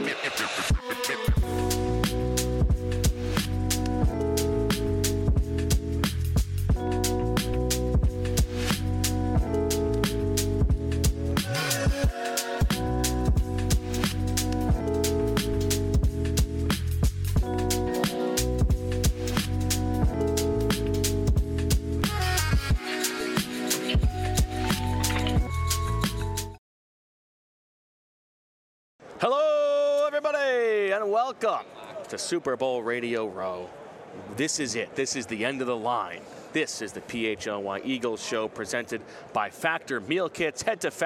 Hello, everybody, and welcome to Super Bowl Radio Row. This is it. This is the end of the line. This is the PHLY Eagles show presented by Factor Meal Kits. Head to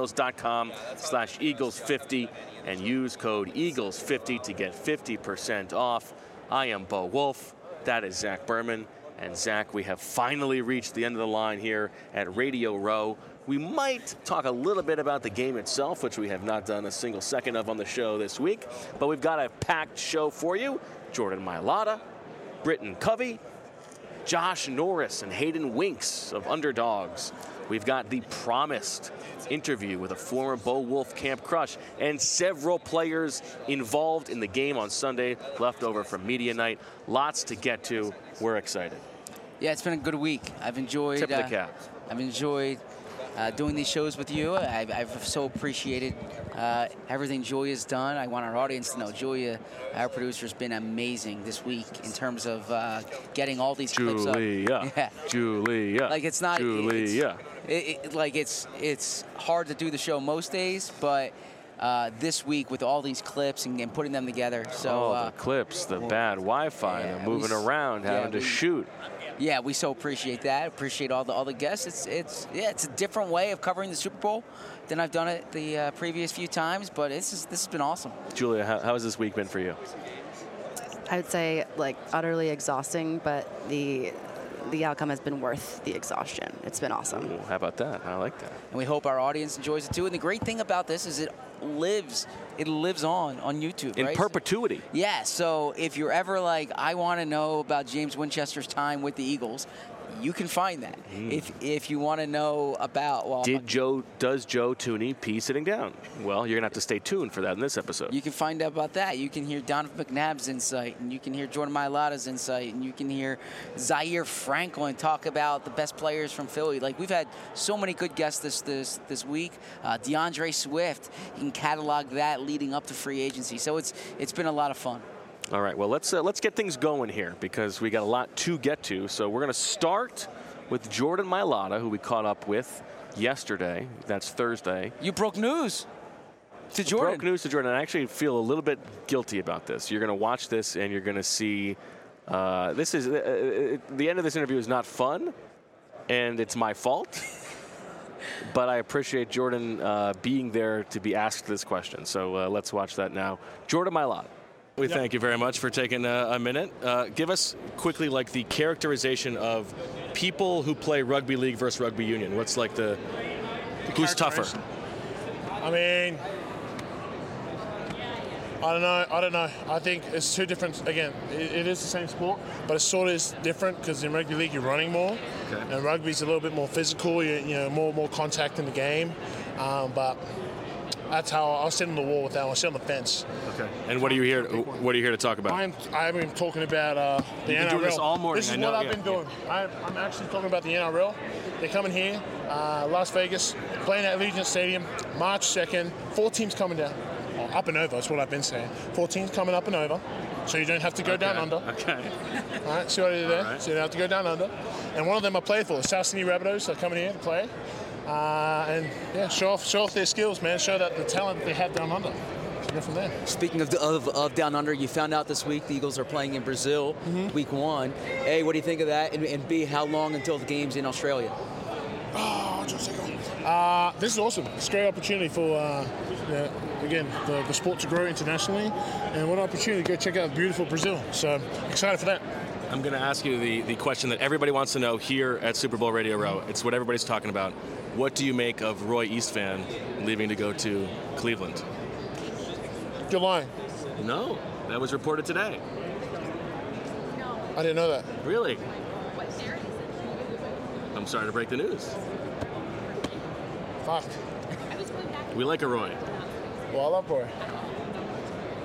factormeals.com/Eagles50 and use code Eagles50 to get 50% off. I am Bo Wolf. That is Zach Berman. And Zach, we have finally reached the end of the line here at Radio Row. We might talk a little bit about the game itself, which we have not done a single second of on the show this week. But we've got a packed show for you. Jordan Mailata, Britton Covey, Josh Norris, and Hayden Winks of Underdogs. We've got the promised interview with a former Bo Wolf camp crush and several players involved in the game on Sunday, left over from media night. Lots to get to. We're excited. Yeah, it's been a good week. I've enjoyed. Tip of the cap. I've enjoyed doing these shows with you. I've so appreciated everything Julia's done. I want our audience to know Julia, our producer, has been amazing this week in terms of getting all these clips up. Yeah. Julia. Like it's not. Julia. It's hard to do the show most days, but this week with all these clips and putting them together. So the clips, the bad Wi-Fi, the moving around, having to shoot. Yeah, we so appreciate that. Appreciate all the guests. It's a different way of covering the Super Bowl than I've done it the previous few times, but this has been awesome. Julia, how has this week been for you? I would say utterly exhausting, but the outcome has been worth the exhaustion. It's been awesome. Ooh, how about that? I like that. And we hope our audience enjoys it too. And the great thing about this is it lives on YouTube, in right? perpetuity. Yeah, so if you're ever like, I want to know about James Winchester's time with the Eagles, you can find that. If you want to know about, does Joe Thuney pee sitting down? Well, you're going to have to stay tuned for that in this episode. You can find out about that. You can hear Donovan McNabb's insight, and you can hear Jordan Mailata's insight, and you can hear Zaire Franklin talk about the best players from Philly. Like, we've had so many good guests this week. DeAndre Swift, you can catalog that leading up to free agency. So it's been a lot of fun. All right, well, let's get things going here because we got a lot to get to. So we're going to start with Jordan Mailata, who we caught up with yesterday. That's Thursday. You broke news to Jordan. Broke news to Jordan. I actually feel a little bit guilty about this. You're going to watch this and you're going to see this is the end of this interview is not fun, and it's my fault. But I appreciate Jordan being there to be asked this question. So let's watch that now. Jordan Mailata. We thank you very much for taking a minute. Give us quickly the characterization of people who play rugby league versus rugby union. What's who's tougher? I mean, I don't know. I think it's two different. Again, it is the same sport, but it sort of is different because in rugby league you're running more, and rugby's a little bit more physical. More contact in the game, but. That's how I'll sit on the wall with that. I'll sit on the fence. Okay. And what are you here? What are you here to talk about? I've been talking about the NRL. Been doing this all morning. This is what I've been doing. I'm actually talking about the NRL. They're coming here, Las Vegas, playing at Allegiant Stadium, March 2nd. 4 teams coming down, up and over. That's what I've been saying. 4 teams coming up and over, so you don't have to go down under. Okay. All right. See what I did there? Right. So you don't have to go down under. And one of them I played for, the South Sydney Rabbitohs. Are coming here to play. Show off their skills, man. Show that the talent they have down under. Go from there. Speaking of down under, you found out this week the Eagles are playing in Brazil, week 1. A, what do you think of that? And B, how long until the game's in Australia? This is awesome. It's a great opportunity for, the sport to grow internationally. And what an opportunity to go check out beautiful Brazil. So excited for that. I'm going to ask you the question that everybody wants to know here at Super Bowl Radio Row. It's what everybody's talking about. What do you make of Roy Eastvan leaving to go to Cleveland? You're lying. No, that was reported today. I didn't know that. Really? I'm sorry to break the news. Fuck. We like a Roy. Well, I love Roy.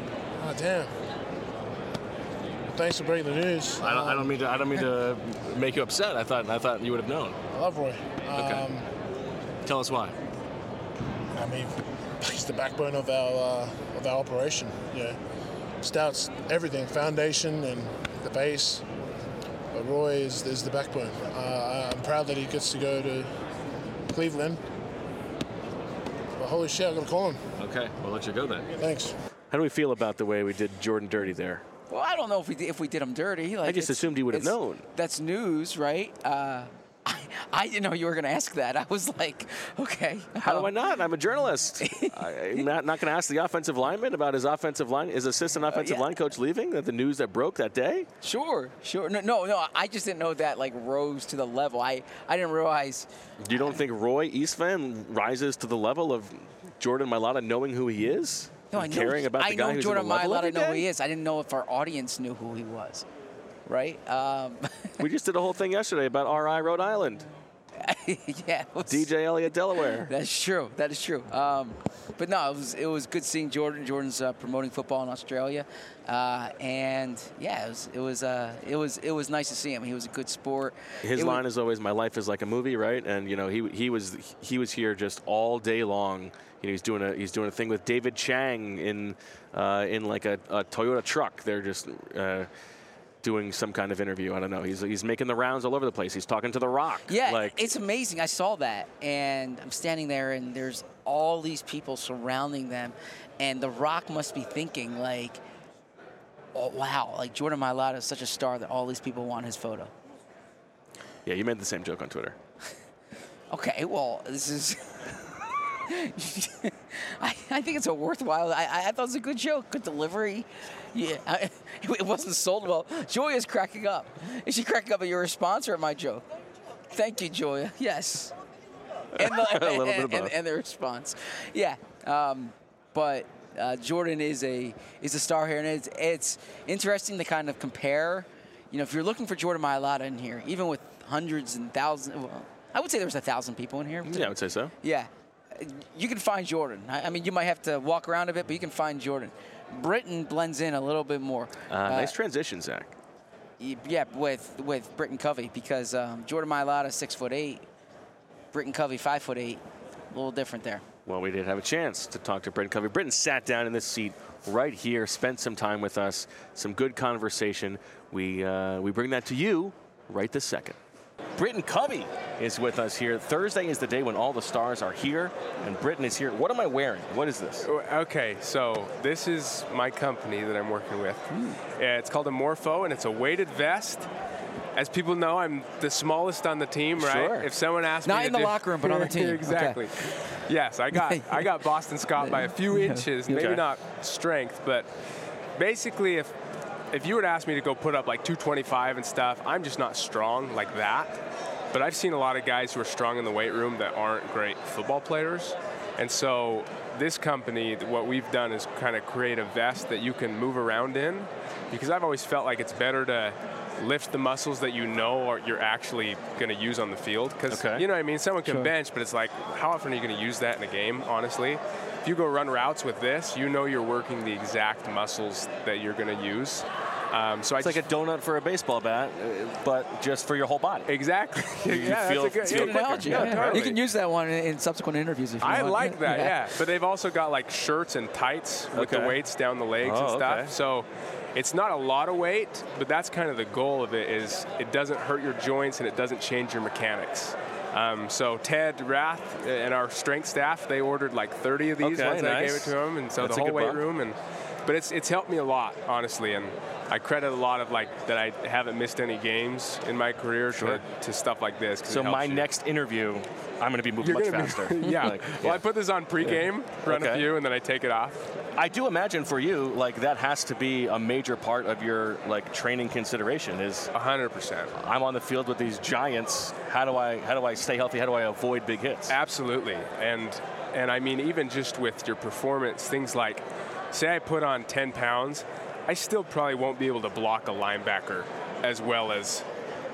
Oh, damn. Thanks for breaking the news. I don't mean to make you upset. I thought you would have known. I love Roy. Okay. Tell us why. I mean, he's the backbone of our operation. Yeah, Stout's everything, foundation and the base. But Roy is the backbone. I'm proud that he gets to go to Cleveland. But holy shit, I'm gonna call him. Okay, we'll let you go then. Thanks. How do we feel about the way we did Jordan dirty there? Well, I don't know if we did him dirty. Like, I just assumed he would have known. That's news, right? I didn't know you were going to ask that. I was like, okay. How do I not? I'm a journalist. I'm not going to ask the offensive lineman about his offensive line, his assistant offensive line coach leaving, the news that broke that day? Sure. No, I just didn't know that, like, rose to the level. I didn't realize. You don't think Roy Eastman rises to the level of Jordan Mailata knowing who he is? No, I know. Caring about the guy who's Jordan in the level Mailata every know who day? he is. I didn't know if our audience knew who he was, right? We just did a whole thing yesterday about RI Rhode Island. Yeah. DJ Elliott, Delaware. That's true. That is true. But no, it was good seeing Jordan. Jordan's promoting football in Australia, and yeah, it was nice to see him. He was a good sport. His line is always, "My life is like a movie," right? And you know, he was here just all day long. You know, he's doing a thing with David Chang in like a Toyota truck. They're just doing some kind of interview. I don't know. He's making the rounds all over the place. He's talking to The Rock. Yeah, it's amazing. I saw that, and I'm standing there, and there's all these people surrounding them, and The Rock must be thinking like, "Oh wow, like Jordan Mailata is such a star that all these people want his photo." Yeah, you made the same joke on Twitter. Okay, well, this is. I think it's a worthwhile. I thought it was a good joke, good delivery. Yeah, it wasn't sold well. Joya's cracking up. Is she cracking up at your response or at my joke? Thank you, Joya. Yes. And the response. Yeah. But Jordan is a star here, and it's interesting to kind of compare. You know, if you're looking for Jordan Mailata in here, even with hundreds and thousands, well, I would say there was 1,000 people in here. Yeah, I would say so. Yeah. You can find Jordan. I mean, you might have to walk around a bit, but you can find Jordan. Britton blends in a little bit more. Nice transition, Zach. Yeah, with Britton Covey, because Jordan Mailata 6'8", Britton Covey 5'8", a little different there. Well, we did have a chance to talk to Britton Covey. Britton sat down in this seat right here, spent some time with us, some good conversation. We bring that to you right this second. Britton Covey is with us here. Thursday is the day when all the stars are here, and Britton is here. What am I wearing? What is this? Okay, so this is my company that I'm working with. It's called a Morpho, and it's a weighted vest. As people know, I'm the smallest on the team, right? Sure. If someone asked me Not in the locker room, but on the team. Exactly. Okay. Yes, I got Boston Scott by a few inches, maybe not strength, but basically if you would ask me to go put up like 225 and stuff, I'm just not strong like that. But I've seen a lot of guys who are strong in the weight room that aren't great football players. And so this company, what we've done is kind of create a vest that you can move around in, because I've always felt like it's better to lift the muscles that you know or you're actually going to use on the field. Because, you know what I mean? Someone can bench, but it's like, how often are you going to use that in a game, honestly? If you go run routes with this, you know you're working the exact muscles that you're going to use. So it's like a donut for a baseball bat, but just for your whole body. Exactly. Yeah, that's a good analogy. Yeah, totally. You can use that one in subsequent interviews if you want. I like that, yeah. But they've also got like shirts and tights with the weights down the legs and stuff. Okay. So it's not a lot of weight, but that's kind of the goal of it, is it doesn't hurt your joints and it doesn't change your mechanics. So Ted Rath and our strength staff, they ordered like 30 of these once I gave it to them, and so that's the a whole good weight room. But it's helped me a lot, honestly, and I credit a lot of that I haven't missed any games in my career to stuff like this. So my next interview, I'm going to be moving much faster. Well, I put this on pregame, run a few, and then I take it off. I do imagine for you, like, that has to be a major part of your training consideration. Is 100%. I'm on the field with these giants. How do I stay healthy? How do I avoid big hits? Absolutely, and I mean, even just with your performance, things like, say I put on 10 pounds, I still probably won't be able to block a linebacker as well as,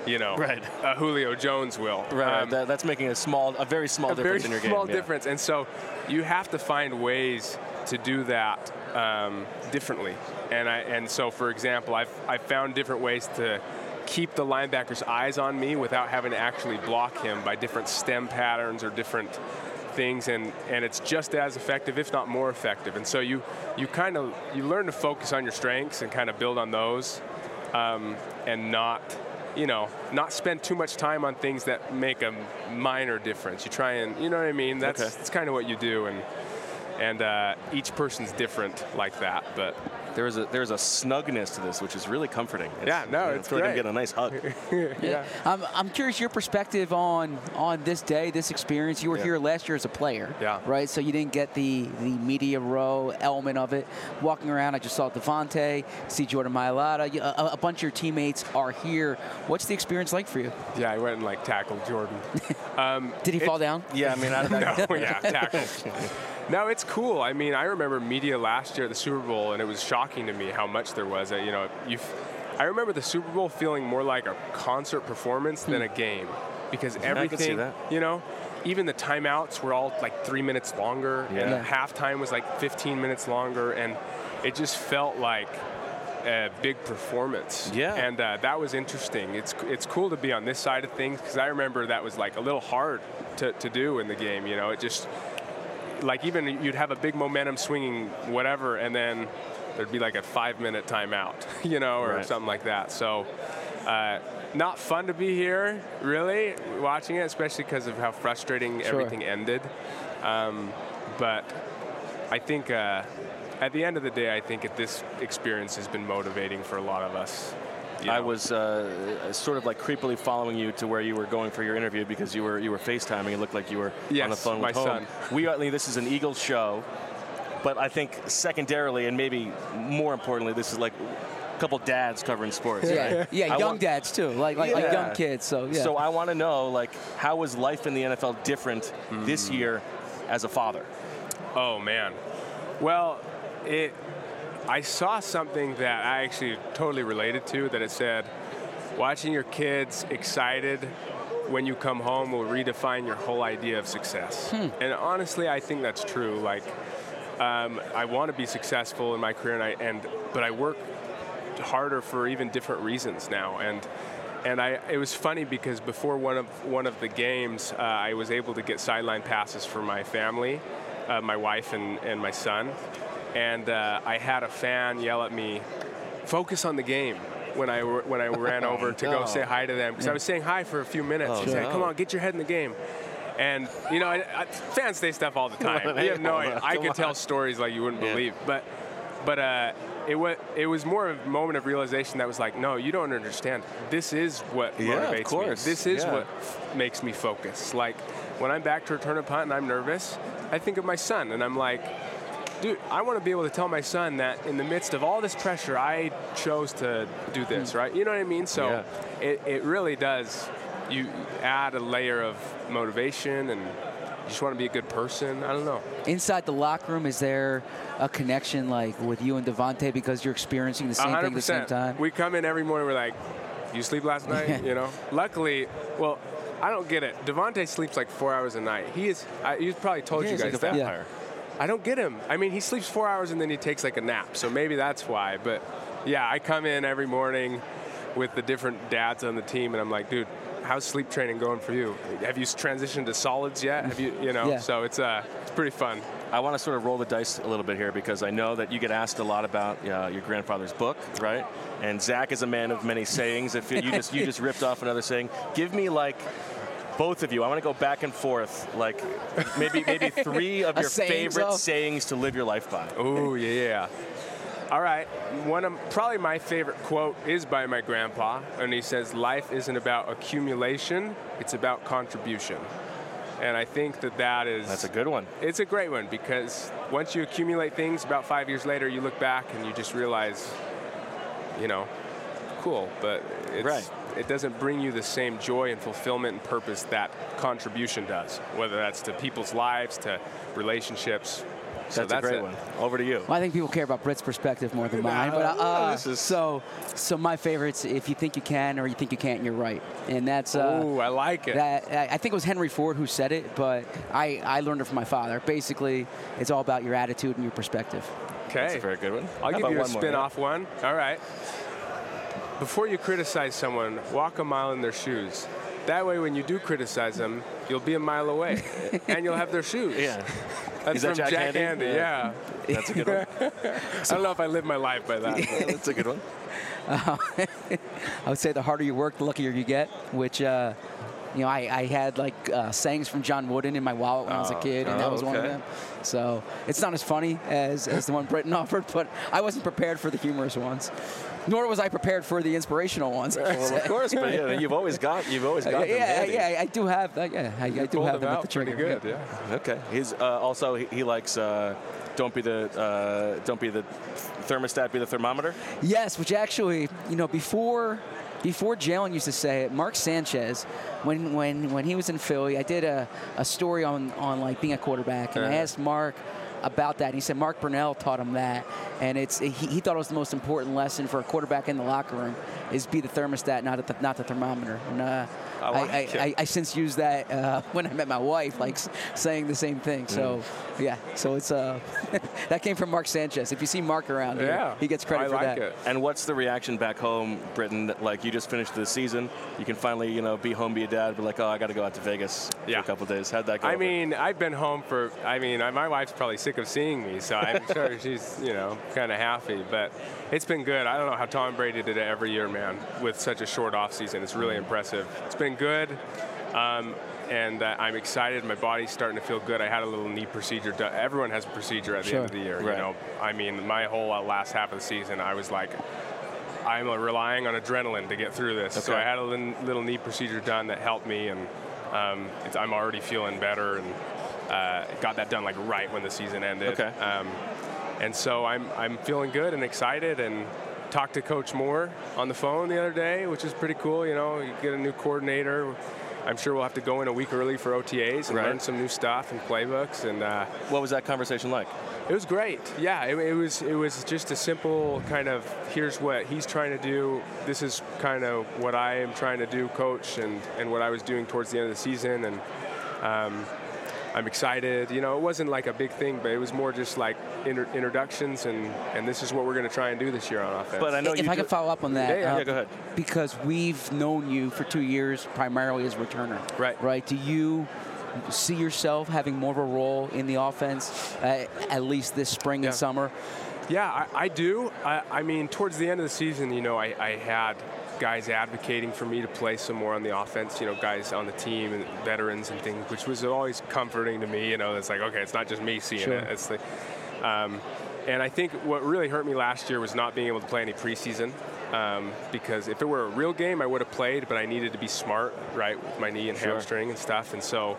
Julio Jones will. Right. That's making a very small difference in your game. Difference. And so you have to find ways to do that differently. And so, for example, I've found different ways to keep the linebacker's eyes on me without having to actually block him by different stem patterns or different things, and it's just as effective, if not more effective. And so you learn to focus on your strengths and kind of build on those, and not spend too much time on things that make a minor difference. You try and, you know what I mean? That's kind of what you do, and each person's different like that, but. There's a snugness to this, which is really comforting. It's great. Like I'm getting a nice hug. Yeah. I'm curious your perspective on this day, this experience. You were here last year as a player, right? So you didn't get the media row element of it. Walking around, I just saw Devontae, see Jordan Mailata. A bunch of your teammates are here. What's the experience like for you? Yeah, I went and tackled Jordan. Did he fall down? Yeah, I mean, tackled. No, it's cool. I mean, I remember media last year at the Super Bowl, and it was shocking to me how much there was. I remember the Super Bowl feeling more like a concert performance than a game, because everything, even the timeouts were all 3 minutes longer, and halftime was 15 minutes longer, and it just felt like a big performance. Yeah. And that was interesting. It's cool to be on this side of things, because I remember that was a little hard to do in the game. It just. Even you'd have a big momentum swinging whatever, and then there'd be a 5-minute timeout, or something like that. So not fun to be here, really, watching it, especially because of how frustrating everything ended. But I think at the end of the day, I think this experience has been motivating for a lot of us. I was sort of creepily following you to where you were going for your interview, because you were FaceTiming. It looked like you were on the phone with my son. This is an Eagles show, but I think secondarily, and maybe more importantly, this is a couple dads covering sports. Yeah, right? Young dads too, like young kids. So So I want to know, how was life in the NFL different this year as a father? Oh man, well, I saw something that I actually totally related to, that it said, watching your kids excited when you come home will redefine your whole idea of success. And honestly, I think that's true. I want to be successful in my career, but I work harder for even different reasons now. And it was funny, because before one of the games, I was able to get sideline passes for my family, my wife and my son. And I had a fan yell at me, "Focus on the game," when I ran over to go say hi to them, because I was saying hi for a few minutes. He said, "Come on, get your head in the game." And fans say stuff all the time. You have no idea. I could tell stories like you wouldn't believe. But it was more of a moment of realization that was no, you don't understand. This is what motivates me. This is what makes me focus. When I'm back to return a punt and I'm nervous, I think of my son, and I'm like, dude, I want to be able to tell my son that in the midst of all this pressure, I chose to do this, right? You know what I mean? So it really does. You add a layer of motivation, and you just want to be a good person. I don't know. Inside the locker room, is there a connection with you and Devontae, because you're experiencing the same 100%. Thing at the same time? We come in every morning, we're like, you sleep last night? Luckily, I don't get it. Devontae sleeps 4 hours a night. He's probably told you guys like a that. vampire. I don't get him. I mean, he sleeps 4 hours and then he takes a nap, so maybe that's why. But yeah, I come in every morning with the different dads on the team, and I'm like, dude, how's sleep training going for you? Have you transitioned to solids yet? Have you, So it's pretty fun. I want to sort of roll the dice a little bit here, because I know that you get asked a lot about your grandfather's book, right? And Zach is a man of many sayings. If you just ripped off another saying, give me both of you, I want to go back and forth, maybe 3 of your favorite sayings to live your life by. Oh, yeah. All right. Probably my favorite quote is by my grandpa, and he says, life isn't about accumulation, it's about contribution. And I think that's a good one. It's a great one, because once you accumulate things, about 5 years later, you look back and you just realize, cool, but it doesn't bring you the same joy and fulfillment and purpose that contribution does, whether that's to people's lives, to relationships. So That's a great one. Over to you. Well, I think people care about Britt's perspective more than mine. But so my favorites, if you think you can or you think you can't, you're right. And that's I like it. I think it was Henry Ford who said it, but I learned it from my father. Basically, it's all about your attitude and your perspective. Okay. That's a very good one. I'll give you a spin-off more? one. All right. Before you criticize someone, walk a mile in their shoes. That way, when you do criticize them, you'll be a mile away, and you'll have their shoes. Yeah. That's from Jack Handy. Yeah. That's a good one. I don't know if I live my life by that. That's a good one. I would say the harder you work, the luckier you get, which, I had like sayings from John Wooden in my wallet when I was a kid, and that was one of them. So it's not as funny as the one Britton offered, but I wasn't prepared for the humorous ones. Nor was I prepared for the inspirational ones. Well, of course, but you've always got them handy. Yeah, I do have. I do have them at the trigger. Pretty good, yeah. Okay. He's also he likes don't be the thermostat, be the thermometer. Yes, which actually, before Jalen used to say it, Mark Sanchez, when he was in Philly, I did a story on like being a quarterback, and I asked Mark about that. He said Mark Brunell taught him that, and he thought it was the most important lesson for a quarterback in the locker room is be the thermostat, not the thermometer. And I since used that when I met my wife, like saying the same thing. So so it's that came from Mark Sanchez. If you see Mark around here, he gets credit for that. It. And what's the reaction back home, Britton? Like you just finished the season, you can finally be home, be a dad, but like, oh, I got to go out to Vegas for a couple of days. How'd that go? I mean, I've been home for. My wife's probably sick of seeing me, so I'm sure she's kind of happy. But it's been good. I don't know how Tom Brady did it every year, man, with such a short off season. It's really impressive. It's been good. And I'm excited. My body's starting to feel good. I had a little knee procedure done. Everyone has a procedure at the end of the year. Right. I mean, my whole last half of the season, I was like, I'm relying on adrenaline to get through this. Okay. So I had a little knee procedure done that helped me, and I'm already feeling better, and got that done like right when the season ended. Okay. And so I'm feeling good and excited, and talked to Coach Moore on the phone the other day, which is pretty cool. You get a new coordinator. I'm sure we'll have to go in a week early for OTAs and learn some new stuff and playbooks. And what was that conversation like? It was great. Yeah, it was just a simple kind of, here's what he's trying to do. This is kind of what I am trying to do, Coach, and what I was doing towards the end of the season. And I'm excited. It wasn't like a big thing, but it was more just like introductions, and this is what we're going to try and do this year on offense. But I know if I could follow up on that. Yeah, go ahead. Because we've known you for 2 years primarily as returner. Right. Do you see yourself having more of a role in the offense, at least this spring and summer? Yeah, I do. I mean, towards the end of the season, I had guys advocating for me to play some more on the offense, guys on the team and veterans and things, which was always comforting to me. It's like, okay, it's not just me seeing it. It's like, and I think what really hurt me last year was not being able to play any preseason, because if it were a real game, I would have played, but I needed to be smart, right, with my knee and hamstring and stuff. And so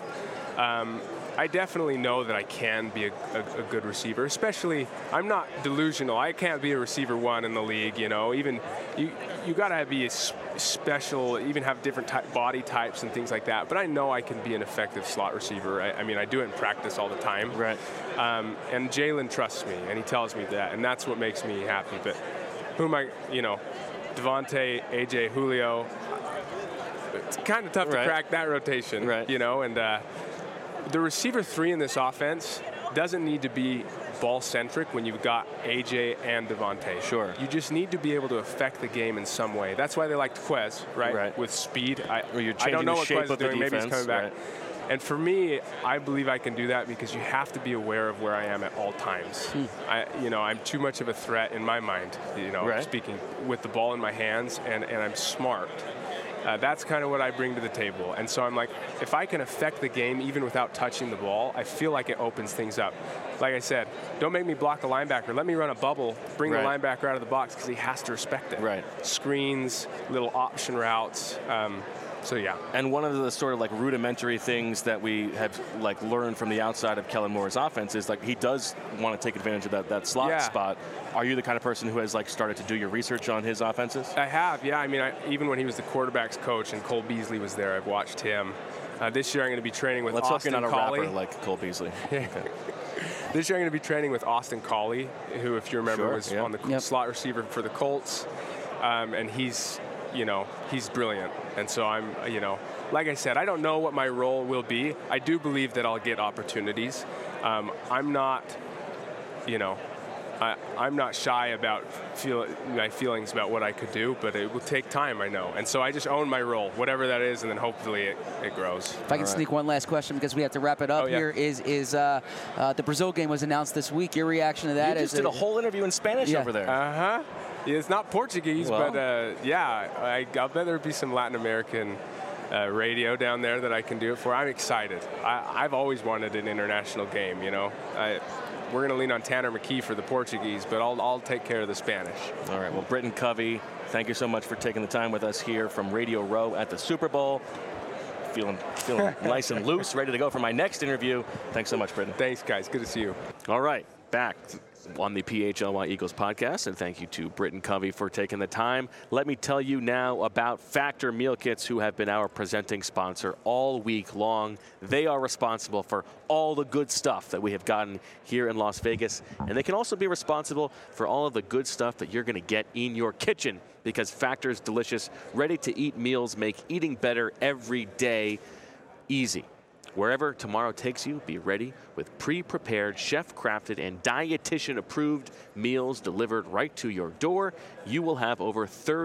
I definitely know that I can be a good receiver, especially I'm not delusional. I can't be a receiver one in the league, even you got to be a special, even have different body types and things like that. But I know I can be an effective slot receiver. I mean, I do it in practice all the time. Right. And Jalen trusts me, and he tells me that, and that's what makes me happy. But who am I, Devontae, AJ, Julio, it's kind of tough to crack that rotation, and the receiver 3 in this offense doesn't need to be ball-centric when you've got AJ and Devontae. Sure. You just need to be able to affect the game in some way. That's why they liked Quez, right? With speed. I don't know what Quez is doing. Maybe he's coming back. And for me, I believe I can do that because you have to be aware of where I am at all times. I'm too much of a threat in my mind, speaking with the ball in my hands, and I'm smart. That's kind of what I bring to the table. And so I'm like, if I can affect the game even without touching the ball, I feel like it opens things up. Like I said, don't make me block a linebacker. Let me run a bubble, bring the linebacker out of the box because he has to respect it. Right. Screens, little option routes. So yeah. And one of the sort of like rudimentary things that we have like learned from the outside of Kellen Moore's offense is like he does want to take advantage of that slot spot. Are you the kind of person who has like started to do your research on his offenses? I have, yeah. I mean, even when he was the quarterback's coach and Cole Beasley was there, I've watched him. This year I'm going to be training with Austin Collie. Let's hope you're not a rapper like Cole Beasley. Okay. This year I'm going to be training with Austin Collie, who, if you remember, was on the slot receiver for the Colts, and he's brilliant. And so I'm, like I said, I don't know what my role will be. I do believe that I'll get opportunities. I'm not, I'm not shy about my feelings about what I could do, but it will take time, I know. And so I just own my role, whatever that is, and then hopefully it grows. If I can sneak one last question, because we have to wrap it up here, is the Brazil game was announced this week. Your reaction to that? You just did a whole interview in Spanish over there. Uh-huh. It's not Portuguese, but I'll bet there'll be some Latin American radio down there that I can do it for. I'm excited. I've always wanted an international game, We're going to lean on Tanner McKee for the Portuguese, but I'll take care of the Spanish. All right. Well, Britton Covey, thank you so much for taking the time with us here from Radio Row at the Super Bowl. Feeling nice and loose, ready to go for my next interview. Thanks so much, Britton. Thanks, guys. Good to see you. All right. Back on the PHLY Eagles podcast, and thank you to Britton Covey for taking the time. Let me tell you now about Factor Meal Kits, who have been our presenting sponsor all week long. They are responsible for all the good stuff that we have gotten here in Las Vegas, and they can also be responsible for all of the good stuff that you're going to get in your kitchen, because Factor's delicious, ready-to-eat meals make eating better every day easy. Wherever tomorrow takes you, be ready with pre-prepared, chef-crafted, and dietitian-approved meals delivered right to your door. You will have over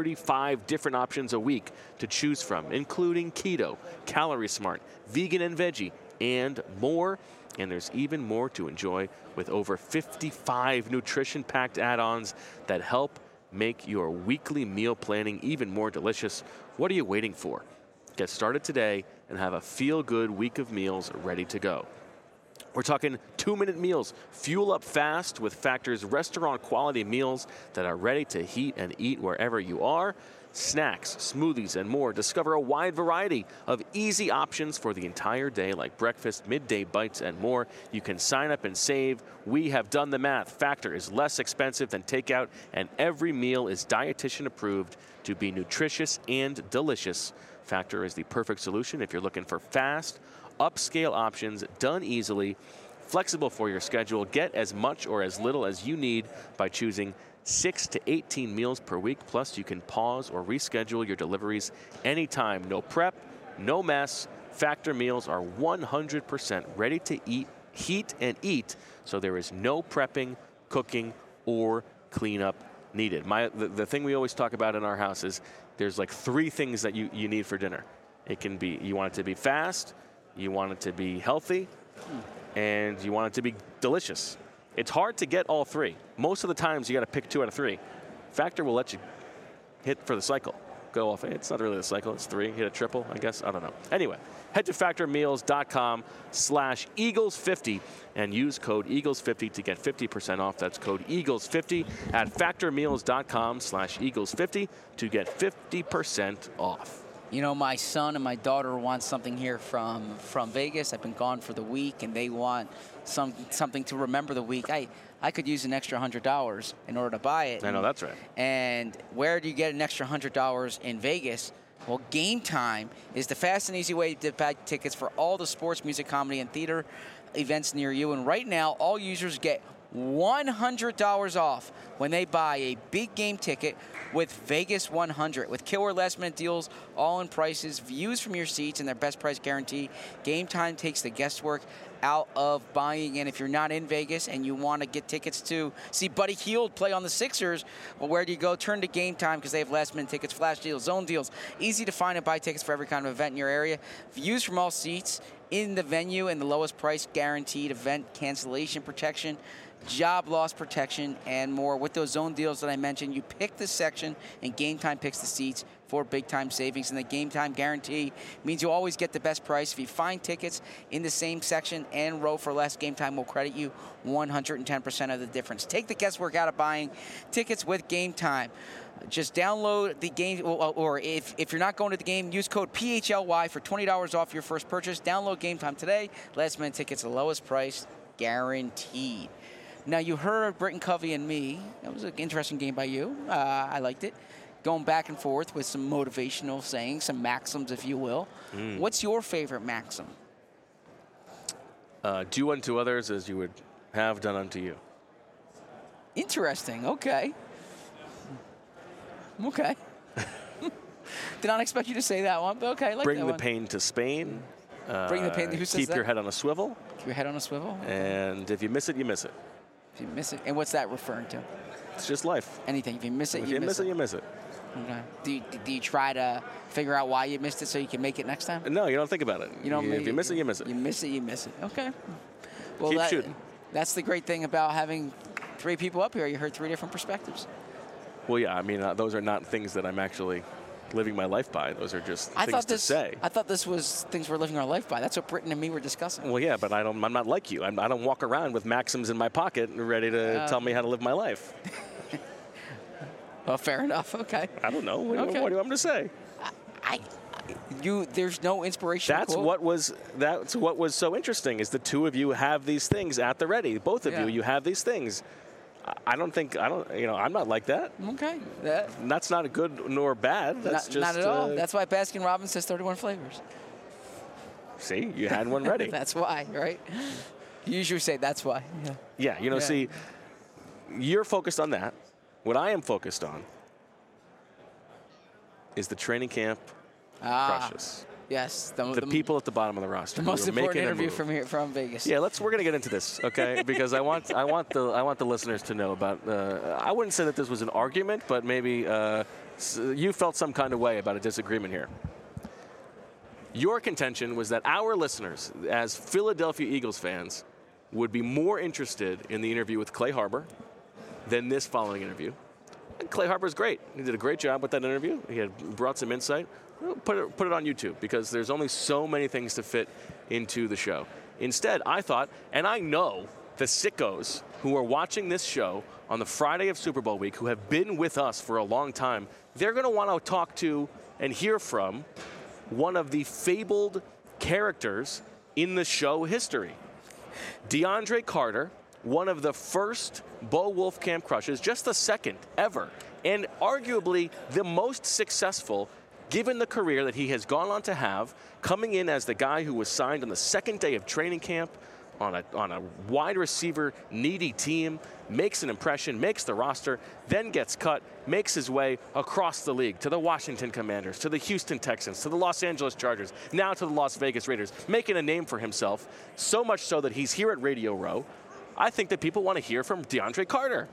35 different options a week to choose from, including keto, calorie smart, vegan and veggie, and more. And there's even more to enjoy with over 55 nutrition-packed add-ons that help make your weekly meal planning even more delicious. What are you waiting for? Get started today and have a feel-good week of meals ready to go. We're talking 2-minute meals. Fuel up fast with Factor's restaurant-quality meals that are ready to heat and eat wherever you are. Snacks, smoothies, and more. Discover a wide variety of easy options for the entire day, like breakfast, midday bites, and more. You can sign up and save. We have done the math. Factor is less expensive than takeout, and every meal is dietitian approved to be nutritious and delicious. Factor is the perfect solution if you're looking for fast, upscale options done easily, flexible for your schedule. Get as much or as little as you need by choosing 6 to 18 meals per week. Plus, you can pause or reschedule your deliveries anytime. No prep, no mess. Factor meals are 100% ready to eat, heat, and eat, so there is no prepping, cooking, or cleanup needed. The thing we always talk about in our house is there's like 3 things that you need for dinner. It can be, you want it to be fast, you want it to be healthy, and you want it to be delicious. It's hard to get all 3. Most of the times you got to pick 2 out of 3. Factor will let you hit for the cycle. Go off. It's not really the cycle. It's 3. Hit a triple, I guess. I don't know. Anyway, head to factormeals.com/Eagles50 and use code Eagles50 to get 50% off. That's code Eagles50 at factormeals.com/Eagles50 to get 50% off. My son and my daughter want something here from Vegas. I've been gone for the week, and they want something to remember the week. I could use an extra $100 in order to buy it. I know, that's right. And where do you get an extra $100 in Vegas? Well, Game Time is the fast and easy way to buy tickets for all the sports, music, comedy, and theater events near you. And right now, all users get $100 off when they buy a big game ticket with Vegas 100. With killer last-minute deals, all-in prices, views from your seats, and their best price guarantee, Game Time takes the guesswork out of buying. And if you're not in Vegas and you want to get tickets to see Buddy Hield play on the Sixers, well, where do you go? Turn to Game Time, because they have last-minute tickets, flash deals, zone deals, easy to find and buy tickets for every kind of event in your area. Views from all seats in the venue, and the lowest price guaranteed, event cancellation protection, job loss protection, and more. With those zone deals that I mentioned, you pick the section, and Game Time picks the seats for big-time savings. And the Game Time guarantee means you'll always get the best price. If you find tickets in the same section and row for less, Game Time will credit you 110% of the difference. Take the guesswork out of buying tickets with Game Time. Just download the game, or if you're not going to the game, use code PHLY for $20 off your first purchase. Download Game Time today. Last-minute tickets, the lowest price, guaranteed. Now, you heard Britton Covey and me. That was an interesting game by you. I liked it. Going back and forth with some motivational sayings, some maxims, if you will. What's your favorite maxim? Do unto others as you would have done unto you. Interesting. Okay. Okay. Did not expect you to say that one, but okay. I like Bring that the one. pain to Spain. Bring the pain. Who says Keep that? your head on a swivel. Keep your head on a swivel. And if you miss it, you miss it. If you miss it, and what's that referring to? It's just life. Anything. If you miss it, If you miss it. you miss it. Okay. Do you try to figure out why you missed it so you can make it next time? No, you don't think about it. You don't. If you miss it, you miss it. You miss it, you miss it. Okay. Well, Keep shooting. That's the great thing about having 3 people up here. You heard 3 different perspectives. Well, yeah. I mean, those are not things that I'm actually living my life by. Those are just things to say. I thought this was things we're living our life by. That's what Britton and me were discussing. Well, yeah, but I'm not like you. I don't walk around with maxims in my pocket ready to tell me how to live my life. Well, fair enough. Okay. I don't know. What do you want me to say? There's no inspiration. That's what was so interesting is the 2 of you have these things at the ready. Both of you have these things. I'm not like that. Okay. That's not a good nor bad. That's not at all. That's why Baskin Robbins says 31 flavors. See, you had one ready. That's why, right? You usually say that's why. Yeah. See, you're focused on that. What I am focused on is the training camp crushes. Yes. The people at the bottom of the roster. The most important interview from Vegas. Yeah, we're going to get into this, okay? Because I want the listeners to know about. I wouldn't say that this was an argument, but maybe you felt some kind of way about a disagreement here. Your contention was that our listeners, as Philadelphia Eagles fans, would be more interested in the interview with Clay Harbor than this following interview. And Clay Harbor's great. He did a great job with that interview. He had brought some insight. Put it on YouTube because there's only so many things to fit into the show. Instead, I thought, and I know the sickos who are watching this show on the Friday of Super Bowl week, who have been with us for a long time, they're going to want to talk to and hear from one of the fabled characters in the show history. DeAndre Carter, one of the first Bo Wolf Camp crushes, just the second ever, and arguably the most successful given the career that he has gone on to have, coming in as the guy who was signed on the second day of training camp on a wide receiver needy team, makes an impression, makes the roster, then gets cut, makes his way across the league to the Washington Commanders, to the Houston Texans, to the Los Angeles Chargers, now to the Las Vegas Raiders, making a name for himself, so much so that he's here at Radio Row. I think that people want to hear from DeAndre Carter.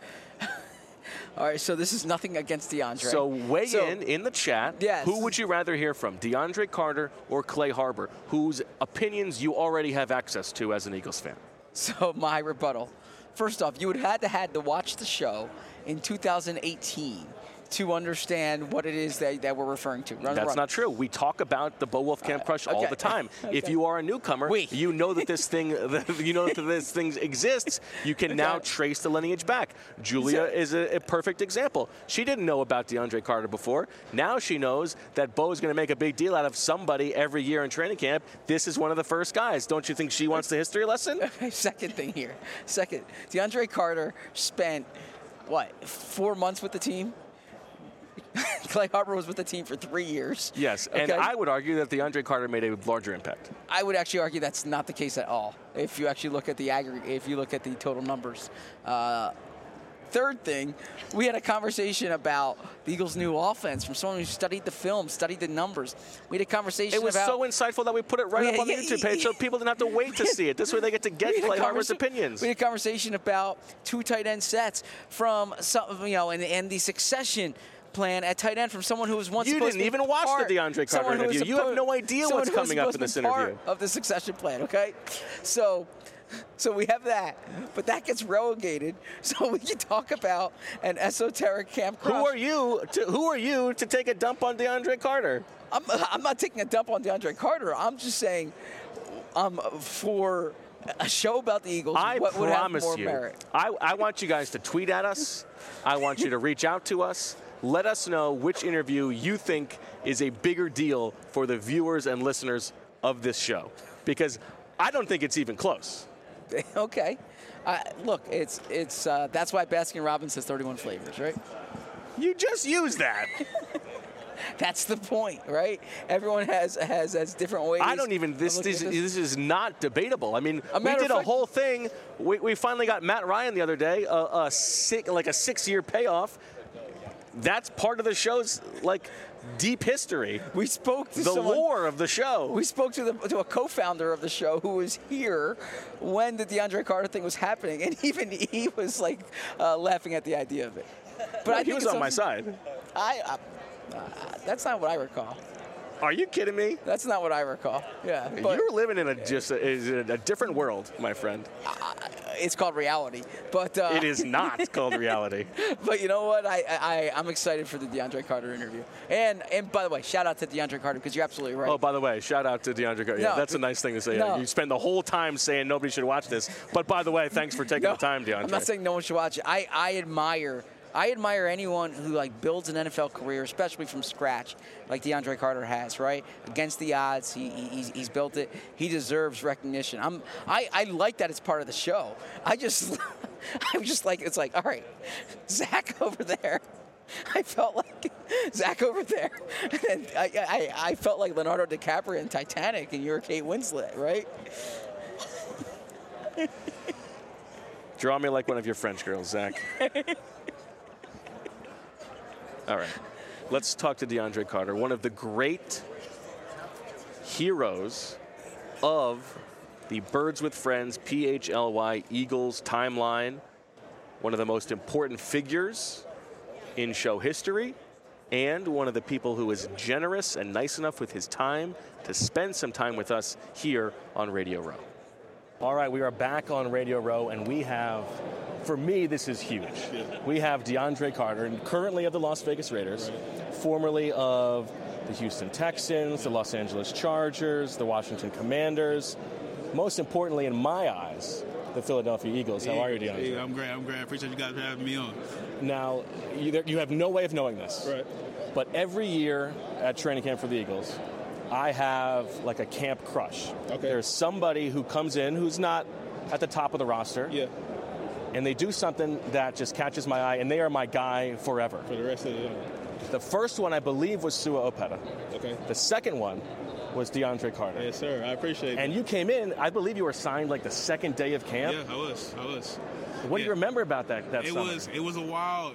All right, so this is nothing against DeAndre. So weigh in the chat. Yes. Who would you rather hear from, DeAndre Carter or Clay Harbor, whose opinions you already have access to as an Eagles fan? So my rebuttal. First off, you would have had to watch the show in 2018 to understand what it is that we're referring to. That's not true. We talk about the Bo Wolf Camp Crush all the time. Okay. If you are a newcomer, you know that this thing, this thing exists. You can now trace the lineage back. Julia is a perfect example. She didn't know about DeAndre Carter before. Now she knows that Bo is going to make a big deal out of somebody every year in training camp. This is one of the first guys. Don't you think she wants the history lesson? Okay, second thing here. DeAndre Carter spent, 4 months with the team? Clay Harbor was with the team for 3 years. Yes, and I would argue that DeAndre Carter made a larger impact. I would actually argue that's not the case at all. If you actually look at the aggregate, if you look at the total numbers. Third thing, we had a conversation about the Eagles' new offense from someone who studied the film, studied the numbers. We had a conversation about... It was so insightful that we put it right up on the YouTube page so people didn't have to wait to see it. This way they get to get Clay Harbor's opinions. We had a conversation about 2 tight end sets from some, and the succession plan at tight end from someone who was once supposed to be You didn't even watch the DeAndre Carter interview. You have no idea what's coming up in this interview. Of the succession plan, okay? So we have that, but that gets relegated. So we can talk about an esoteric camp crush. Who are you to take a dump on DeAndre Carter? I'm not taking a dump on DeAndre Carter. I'm just saying, for a show about the Eagles, what would have more merit? I want you guys to tweet at us. I want you to reach out to us. Let us know which interview you think is a bigger deal for the viewers and listeners of this show, because I don't think it's even close. Okay. Look, it's that's why Baskin Robbins has 31 flavors, right? You just used that. That's the point, right? Everyone has different ways. I don't even. This is not debatable. I mean, we did a whole thing. We finally got Matt Ryan the other day. A 6-year payoff. That's part of the show's deep history. We spoke to the lore of the show. We spoke to a co-founder of the show who was here when the DeAndre Carter thing was happening, and even he was laughing at the idea of it. But he was on my side. That's not what I recall. Are you kidding me? That's not what I recall. Yeah, you're living in a different world, my friend. It's called reality, but it is not called reality. But you know what? I'm excited for the DeAndre Carter interview. And by the way, shout out to DeAndre Carter because you're absolutely right. Oh, by the way, shout out to DeAndre Carter. Yeah, that's a nice thing to say. No. You spend the whole time saying nobody should watch this, but by the way, thanks for taking the time, DeAndre. I'm not saying no one should watch it. I admire anyone who builds an NFL career, especially from scratch, like DeAndre Carter has, right? Against the odds, he's built it. He deserves recognition. I like that it's part of the show. I'm just like, it's like, all right, Zach over there. I felt like Zach over there. And I felt like Leonardo DiCaprio in Titanic, and you're Kate Winslet, right? Draw me like one of your French girls, Zach. All right, let's talk to DeAndre Carter, one of the great heroes of the Birds with Friends, PHLY Eagles timeline, one of the most important figures in show history, and one of the people who is generous and nice enough with his time to spend some time with us here on Radio Row. All right, we are back on Radio Row, and we have, for me, this is huge. Yeah. We have DeAndre Carter, currently of the Las Vegas Raiders, formerly of the Houston Texans, the Los Angeles Chargers, the Washington Commanders, most importantly, in my eyes, the Philadelphia Eagles. How are you, DeAndre? I'm great. I appreciate you guys for having me on. Now, you have no way of knowing this, right? But every year at training camp for the Eagles, I have a camp crush. Okay. There's somebody who comes in who's not at the top of the roster. Yeah. And they do something that just catches my eye, and they are my guy forever. For the rest of the year. The first one, I believe, was Sua Opeta. Okay. The second one was DeAndre Carter. Yes, sir. I appreciate it. And you came in, I believe you were signed the second day of camp. Yeah, I was. What do you remember about that summer? It was a wild,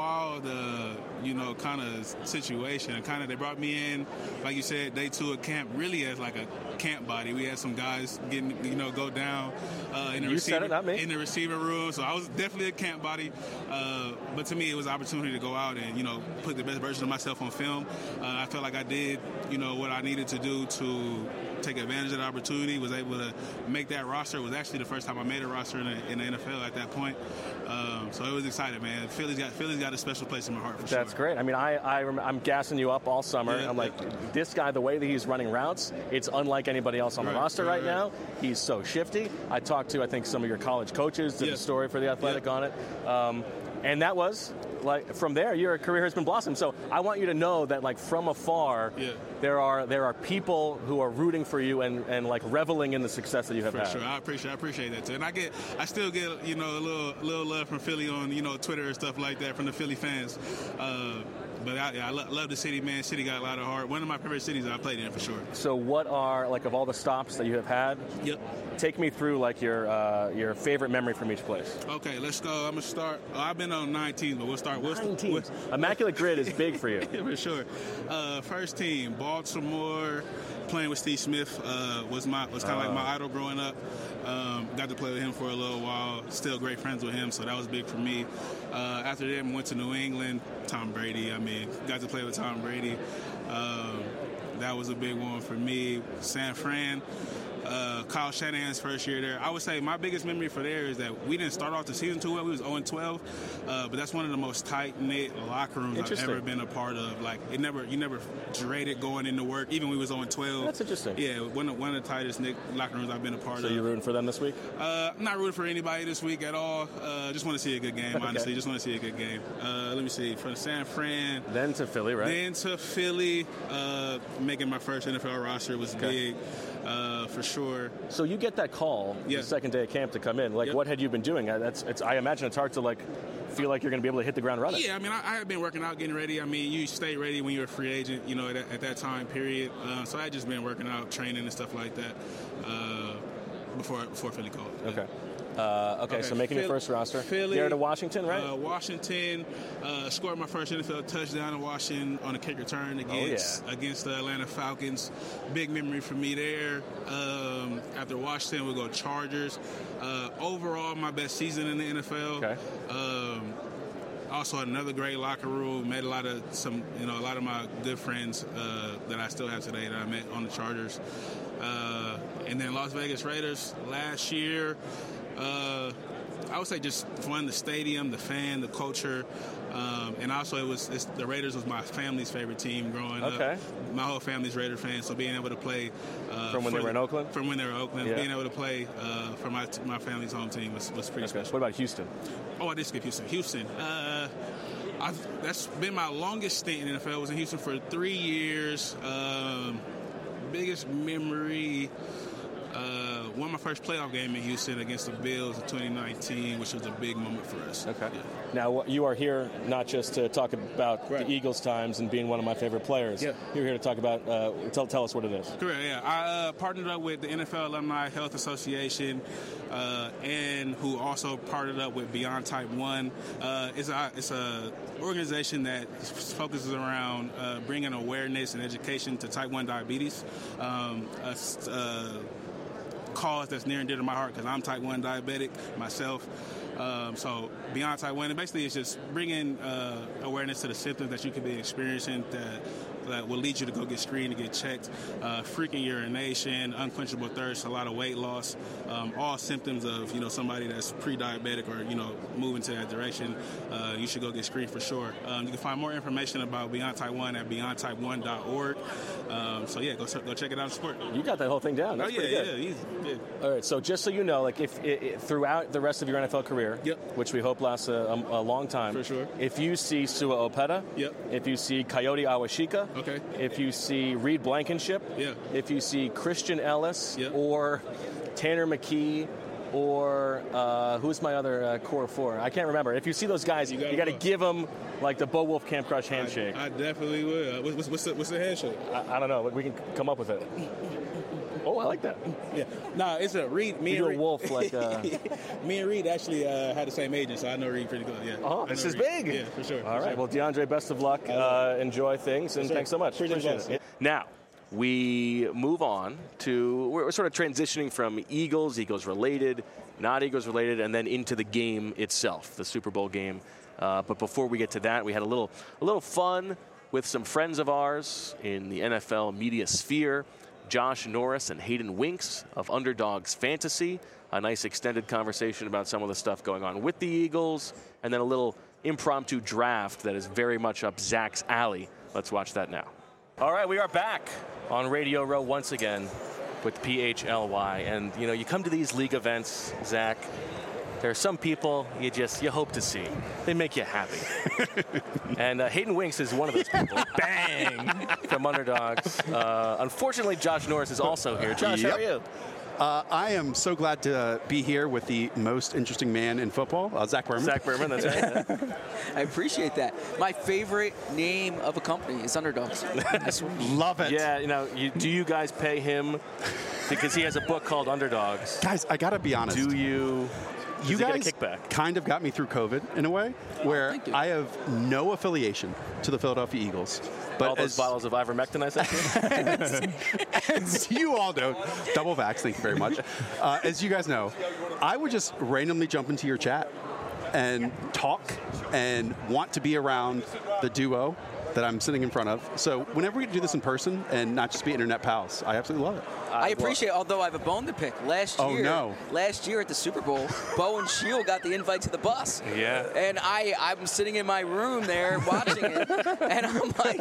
kind of situation. And they brought me in, like you said, day 2 of camp, really as a camp body. We had some guys go down in the receiver room. So I was definitely a camp body. But to me, it was an opportunity to go out and put the best version of myself on film. I felt like I did what I needed to do to take advantage of the opportunity. Was able to make that roster. It was actually the first time I made a roster in the NFL at that point. So it was exciting, man. Philly's got a special place in my heart for sure. That's great. I mean, I'm gassing you up all summer. Yeah, I'm like, this guy, the way that he's running routes, it's unlike anybody else on the roster right now. He's so shifty. I talked to, I think, some of your college coaches, did a story for The Athletic on it. And that was, from there, your career has been blossomed. So I want you to know that, from afar, there are people who are rooting for you and reveling in the success that you have had. For sure, I appreciate that too. And I still get a little love from Philly on Twitter and stuff like that from the Philly fans. But I love the city, man. City got a lot of heart. One of my favorite cities I played in, for sure. So what are, of all the stops that you have had, take me through, your favorite memory from each place. Okay, let's go. I'm going to start. I've been on 9 teams, but we'll start. 9 teams. Immaculate Grid is big for you. For sure. First team, Baltimore. Playing with Steve Smith was kind of like my idol growing up. Got to play with him for a little while. Still great friends with him, so that was big for me. After that, went to New England. Tom Brady. Got to play with Tom Brady. That was a big one for me. San Fran. Kyle Shanahan's first year there. I would say my biggest memory for there is that we didn't start off the season too well. We was 0-12, but that's one of the most tight-knit locker rooms I've ever been a part of. You never dreaded going into work, even when we was 0-12. That's interesting. Yeah, one of the tightest knit locker rooms I've been a part of. So you're rooting for them this week? I'm not rooting for anybody this week at all. Just want to see a good game, honestly. Okay. Just want to see a good game. Let me see. From San Fran. Then to Philly, right? Then to Philly. Making my first NFL roster was big. for sure. So you get that call the second day of camp to come in. Like, what had you been doing? I imagine it's hard to like feel like you're going to be able to hit the ground running. Yeah, I mean, I have been working out, getting ready. I mean, you stay ready when you're a free agent, you know, at that time period. So I just been working out, training and stuff like that before Philly called. Okay. So making your first roster. Philly, you're to Washington, right? Washington, scored my first NFL touchdown in Washington on a kick return against the Atlanta Falcons. Big memory for me there. After Washington, we'll go Chargers. Overall, my best season in the NFL. Okay. Also, another great locker room. Met a lot of my good friends that I still have today that I met on the Chargers. And then Las Vegas Raiders last year. I would say just fun, the stadium, the fan, the culture, and also the Raiders was my family's favorite team growing up. My whole family's Raider fans, so being able to play from when they were in Oakland. From when they were in Oakland, being able to play for my family's home team was pretty special. What about Houston? Oh, I did skip Houston. Houston. That's been my longest stint in the NFL. I was in Houston for 3 years. Biggest memory. Won my first playoff game in Houston against the Bills in 2019, which was a big moment for us. Okay. Yeah. Now, you are here not just to talk about the Eagles times and being one of my favorite players. Yeah. You're here to talk about, tell us what it is. Correct, yeah. I partnered up with the NFL Alumni Health Association and who also partnered up with Beyond Type 1. It's a organization that focuses around bringing awareness and education to Type 1 diabetes. Cause that's near and dear to my heart because I'm Type 1 diabetic myself. So Beyond Type 1, and basically it's just bringing awareness to the symptoms that you could be experiencing that will lead you to go get screened and get checked. Frequent urination, unquenchable thirst, a lot of weight loss, all symptoms of somebody that's pre-diabetic or moving to that direction. You should go get screened for sure. You can find more information about Beyond Type 1 at beyondtype1.org. So yeah, go check it out and support. You got that whole thing down. That's pretty good. Yeah. All right, so just so you know, like if throughout the rest of your NFL career, which we hope lasts a long time, for sure. If you see Sua Opeta, if you see Coyote Awashika, if you see Reed Blankenship, if you see Christian Ellis or Tanner McKee, or who's my other core four? I can't remember. If you see those guys, you got to give them like the Bo Wolf Camp Crush handshake. I definitely will. What's the handshake? I don't know. We can come up with it. Oh, I like that. Yeah. No, it's a Reed. Me and Reed. Wolf, like. Me and Reed actually had the same agent, so I know Reed pretty good. Yeah. Oh, this is big. Yeah, for sure. All right. Well, DeAndre, best of luck. Enjoy things, and thanks so much. Appreciate it. Now, we move on to, we're sort of transitioning from Eagles related, not Eagles related, and then into the game itself, the Super Bowl game. But before we get to that, we had a little fun with some friends of ours in the NFL media sphere. Josh Norris and Hayden Winks of Underdogs Fantasy. A nice extended conversation about some of the stuff going on with the Eagles, and then a little impromptu draft that is very much up Zach's alley. Let's watch that now. All right, we are back on Radio Row once again with PHLY. And, you come to these league events, Zach, there are some people you hope to see. They make you happy. And Hayden Winks is one of those people. Bang! From Underdogs. Unfortunately, Josh Norris is also here. Josh, how are you? I am so glad to be here with the most interesting man in football, Zach Berman. Zach Berman, that's right. I appreciate that. My favorite name of a company is Underdogs. Love it. Yeah, do you guys pay him because he has a book called Underdogs? Guys, I got to be honest. Do you... You guys kind of got me through COVID in a way where I have no affiliation to the Philadelphia Eagles. But all those bottles of ivermectin I sent you? As you all know, double vax, thank you very much. As you guys know, I would just randomly jump into your chat and talk and want to be around the duo that I'm sitting in front of. So whenever we do this in person and not just be internet pals, I absolutely love it. I appreciate it, although I have a bone to pick. Last year at the Super Bowl, Bo and Shield got the invite to the bus. Yeah. And I'm sitting in my room there watching it, and I'm like,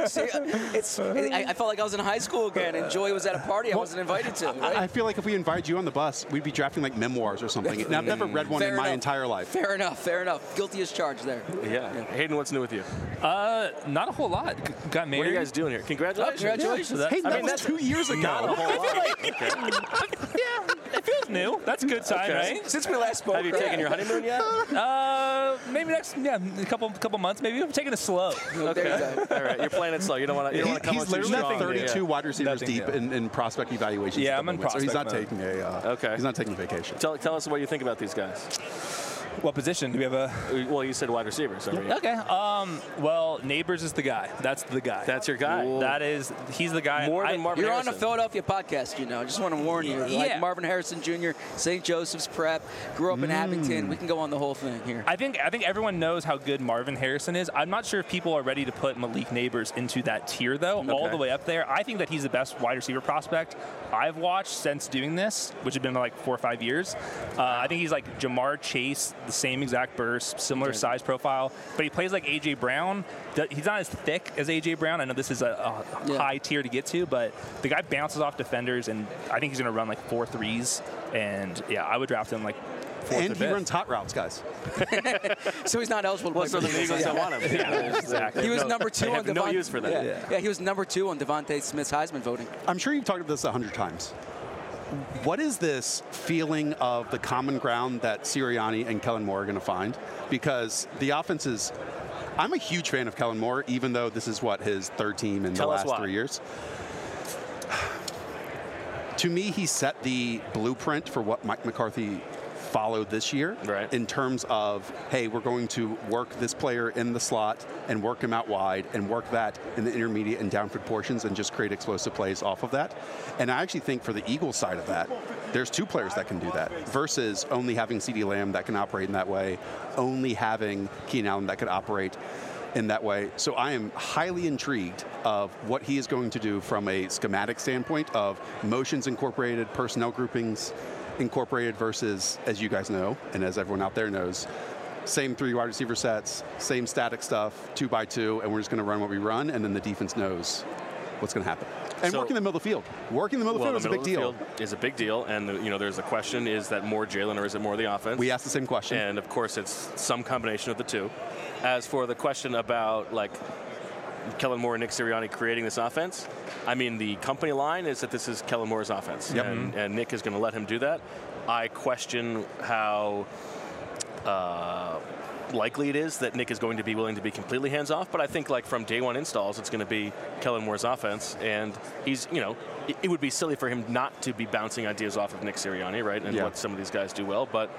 I felt like I was in high school again, and Joy was at a party I wasn't invited to. Right? I feel like if we invited you on the bus, we'd be drafting like memoirs or something. And I've never read one in my entire life. Fair enough. Guilty as charged there. Yeah. Hayden, what's new with you? Not a whole lot. lot. Got married. What are you guys doing here? Congratulations. Congratulations. Yeah. Hey, I that mean, was that's 2 years ago. Not a whole lot. Okay. yeah, it feels new. That's a good sign, Okay. right? Since we last spoke, Have you taken your honeymoon yet? Maybe next, a couple months. Maybe I'm taking it slow. Okay. All right. You're playing it slow. You don't want to come He's on too literally strong. 32 wide receivers Nothing, deep yeah. in prospect evaluations. Yeah, at I'm the in moment, so he's not prospect mode. taking a Okay. He's not taking a vacation. Tell us what you think about these guys. What position do we have a? Well, you said wide receiver. So Okay. Well, Neighbors is the guy. That's the guy. That's your guy. He's the guy. More than Marvin You're Harrison. on a Philadelphia podcast, you know. I just want to warn you. Like Yeah. Marvin Harrison Jr., St. Joseph's Prep, grew up in Abington. We can go on the whole thing here. I think everyone knows how good Marvin Harrison is. I'm not sure if people are ready to put Malik Neighbors into that tier, though, all the way up there. I think that he's the best wide receiver prospect I've watched since doing this, which has been like 4 or 5 years. I think he's like Jamar Chase, the same exact burst, similar size profile, but he plays like A.J. Brown. He's not as thick as A.J. Brown. I know this is a high tier to get to, but the guy bounces off defenders, and I think he's going to run like 4 threes. And yeah, I would draft him like 4th And or he 5th. runs hot routes, guys. So he's not eligible to Well, play so for the Eagles don't want him. Yeah, exactly. He was number 2 They on have Devontae. no use for that. Yeah, he was number 2 on Devontae Smith's Heisman voting. I'm sure you've talked about this 100 times. What is this feeling of the common ground that Sirianni and Kellen Moore are going to find? Because the offense is... I'm a huge fan of Kellen Moore, even though this is, his 3rd team in the last 3 years. To me, he set the blueprint for what Mike McCarthy followed this year in terms of, hey, we're going to work this player in the slot and work him out wide and work that in the intermediate and downfield portions and just create explosive plays off of that. And I actually think for the Eagles side of that, there's 2 players that can do that versus only having CeeDee Lamb that can operate in that way, only having Keenan Allen that could operate in that way. So I am highly intrigued of what he is going to do from a schematic standpoint of motions incorporated, personnel groupings incorporated versus, as you guys know, and as everyone out there knows, same 3 wide receiver sets, same static stuff, 2 by 2, and we're just going to run what we run, and then the defense knows what's going to happen. And working in the middle of the field. Working in the middle of the field is a big deal. Is a big deal, and there's the question: is that more Jalen or is it more the offense? We asked the same question, and of course it's some combination of the two. As for the question about Kellen Moore and Nick Sirianni creating this offense, I mean, the company line is that this is Kellen Moore's offense, and Nick is going to let him do that. I question how likely it is that Nick is going to be willing to be completely hands-off, but I think from day one installs, it's going to be Kellen Moore's offense, and he's, it would be silly for him not to be bouncing ideas off of Nick Sirianni, right, and what some of these guys do well, but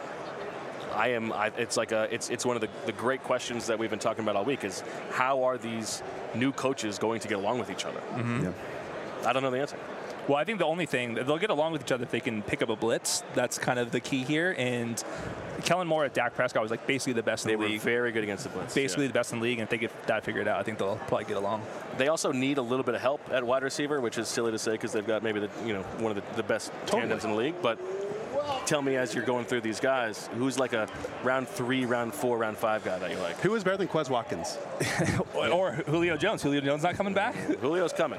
it's one of the great questions that we've been talking about all week is how are these new coaches going to get along with each other? I don't know the answer. Well, I think the only thing, they'll get along with each other if they can pick up a blitz. That's kind of the key here. And Kellen Moore at Dak Prescott was basically the best in the league. They were very good against the blitz. Basically the best in the league, and if they get that figured out, I think they'll probably get along. They also need a little bit of help at wide receiver, which is silly to say because they've got maybe one of the best tandems in the league. But tell me, as you're going through these guys, who's like a round 3, round 4, round 5 guy that you like? Who is better than Quez Watkins? Or Julio Jones. Julio Jones not coming back? Julio's coming.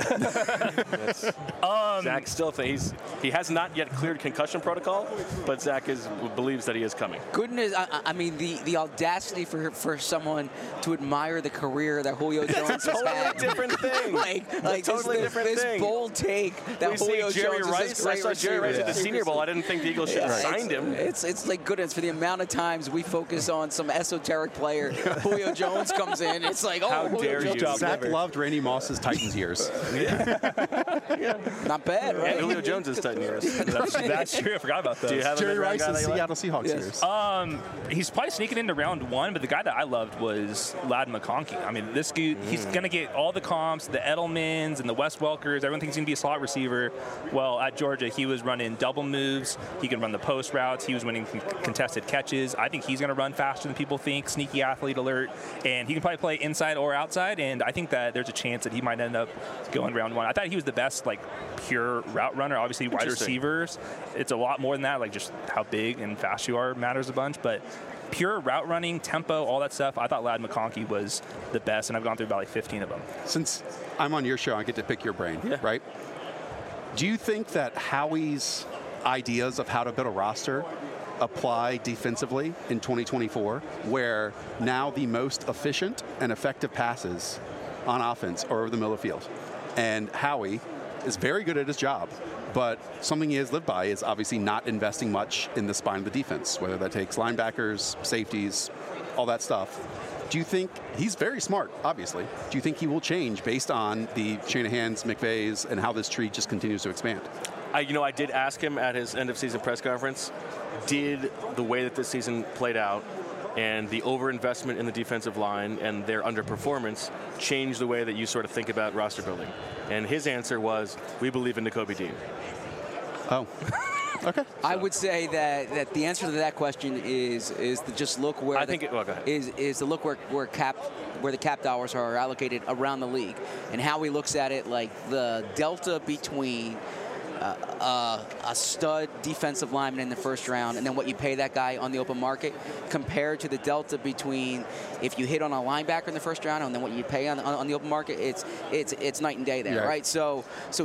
Zach still thinks he has not yet cleared concussion protocol, but Zach believes that he is coming. Goodness, I mean, the audacity for someone to admire the career that Julio Jones has had. Different thing. This bold take that Julio Jones is this great I saw Jerry Rice at the Senior Bowl. I didn't think the Eagles should have signed him. It's like goodness for the amount of times we focus on some esoteric player. Julio Jones comes in. It's like, how dare you? Zach loved Randy Moss's Titans years. Not bad, right? And Julio Jones's Titan years. That's true. I forgot about that. Do you have Jerry Rice's Seattle Seahawks years. He's probably sneaking into round 1, but the guy that I loved was Ladd McConkey. I mean, this dude, he's going to get all the comps, the Edelmans and the Wes Welkers. Everyone thinks he's going to be a slot receiver. Well, at Georgia, he was running double moves. He can run the post routes. He was winning contested catches. I think he's going to run faster than people think. Sneaky athlete alert. And he can probably play inside or outside. And I think that there's a chance that he might end up going round 1. I thought he was the best, pure route runner. Obviously, wide receivers, it's a lot more than that. Just how big and fast you are matters a bunch. But pure route running, tempo, all that stuff, I thought Ladd McConkey was the best, and I've gone through about 15 of them. Since I'm on your show, I get to pick your brain, right? Do you think that Howie's ideas of how to build a roster apply defensively in 2024, where now the most efficient and effective passes on offense or over the middle of the field. And Howie is very good at his job, but something he has lived by is obviously not investing much in the spine of the defense, whether that takes linebackers, safeties, all that stuff. Do you think, he's very smart, obviously, do you think he will change based on the Shanahan's, McVay's, and how this tree just continues to expand? I did ask him at his end-of-season press conference, did the way that this season played out and the overinvestment in the defensive line and their underperformance change the way that you sort of think about roster building? And his answer was, we believe in Nakobe Dean. Oh. Okay. I would say that the answer to that question is to just look where is to look where the cap dollars are allocated around the league, and how he looks at it, like the delta between a stud defensive lineman in the first round and then what you pay that guy on the open market, compared to the delta between if you hit on a linebacker in the first round and then what you pay on the open market. It's night and day there, right? So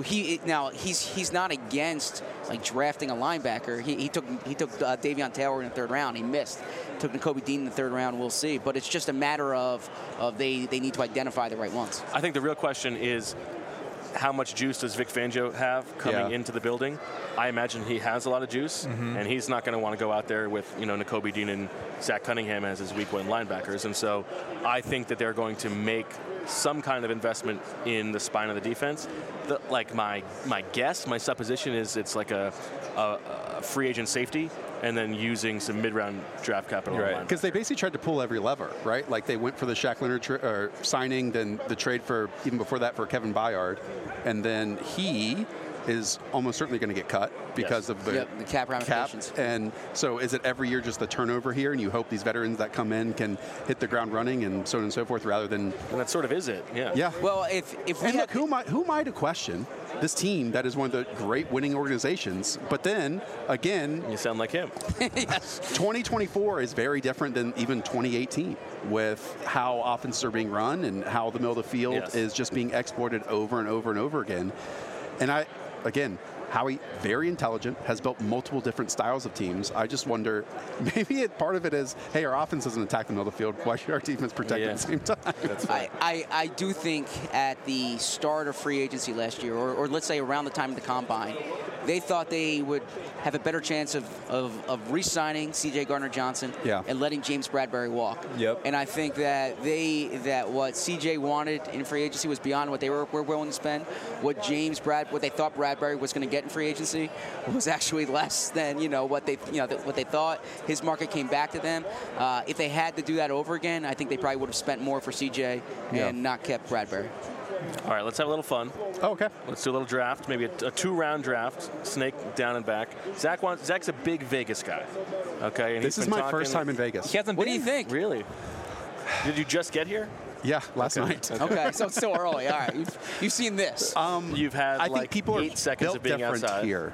he's not against like drafting a linebacker. He took Davion Taylor in the third round. He missed. Took Nakobe Dean in the third round. We'll see. But it's just a matter of they need to identify the right ones. I think the real question is, how much juice does Vic Fangio have coming into the building? I imagine he has a lot of juice, and he's not going to want to go out there with Nakobe Dean and Zach Cunningham as his week one linebackers. And so I think that they're going to make some kind of investment in the spine of the defense. My guess, my supposition is it's like a free agent safety, and then using some mid-round draft capital. Right, because they basically tried to pull every lever, right? Like they went for the Shaq Leonard signing, then the trade for, even before that, for Kevin Byard, and then he is almost certainly going to get cut because of the cap ramifications. And so is it every year just the turnover here, and you hope these veterans that come in can hit the ground running and so on and so forth, rather than... And that sort of is it, yeah. Yeah. Well, if we and look, who am I to question this team that is one of the great winning organizations? But then, again... You sound like him. Yes. 2024 is very different than even 2018 with how offenses are being run and how the middle of the field is just being exploited over and over and over again. And again, Howie, very intelligent, has built multiple different styles of teams. I just wonder, maybe part of it is, hey, our offense doesn't attack the middle of the field. Why should our defense protect at the same time? That's right. I do think at the start of free agency last year, or let's say around the time of the Combine, they thought they would have a better chance of re-signing C.J. Gardner-Johnson and letting James Bradbury walk. Yep. And I think that what C.J. wanted in free agency was beyond what they were willing to spend. What they thought Bradbury was going to get in free agency was actually less than what they thought. His market came back to them. If they had to do that over again, I think they probably would have spent more for C.J. and not kept Bradbury. All right, let's have a little fun. Oh, okay. Let's do a little draft, maybe a 2-round draft, snake down and back. Zach's a big Vegas guy. Okay, and this is my first time in Vegas. What do you think? Really? Did you just get here? Yeah, last night. Okay, so it's still early. All right, you've seen this. You've had I think people 8 seconds built of being different outside. Here.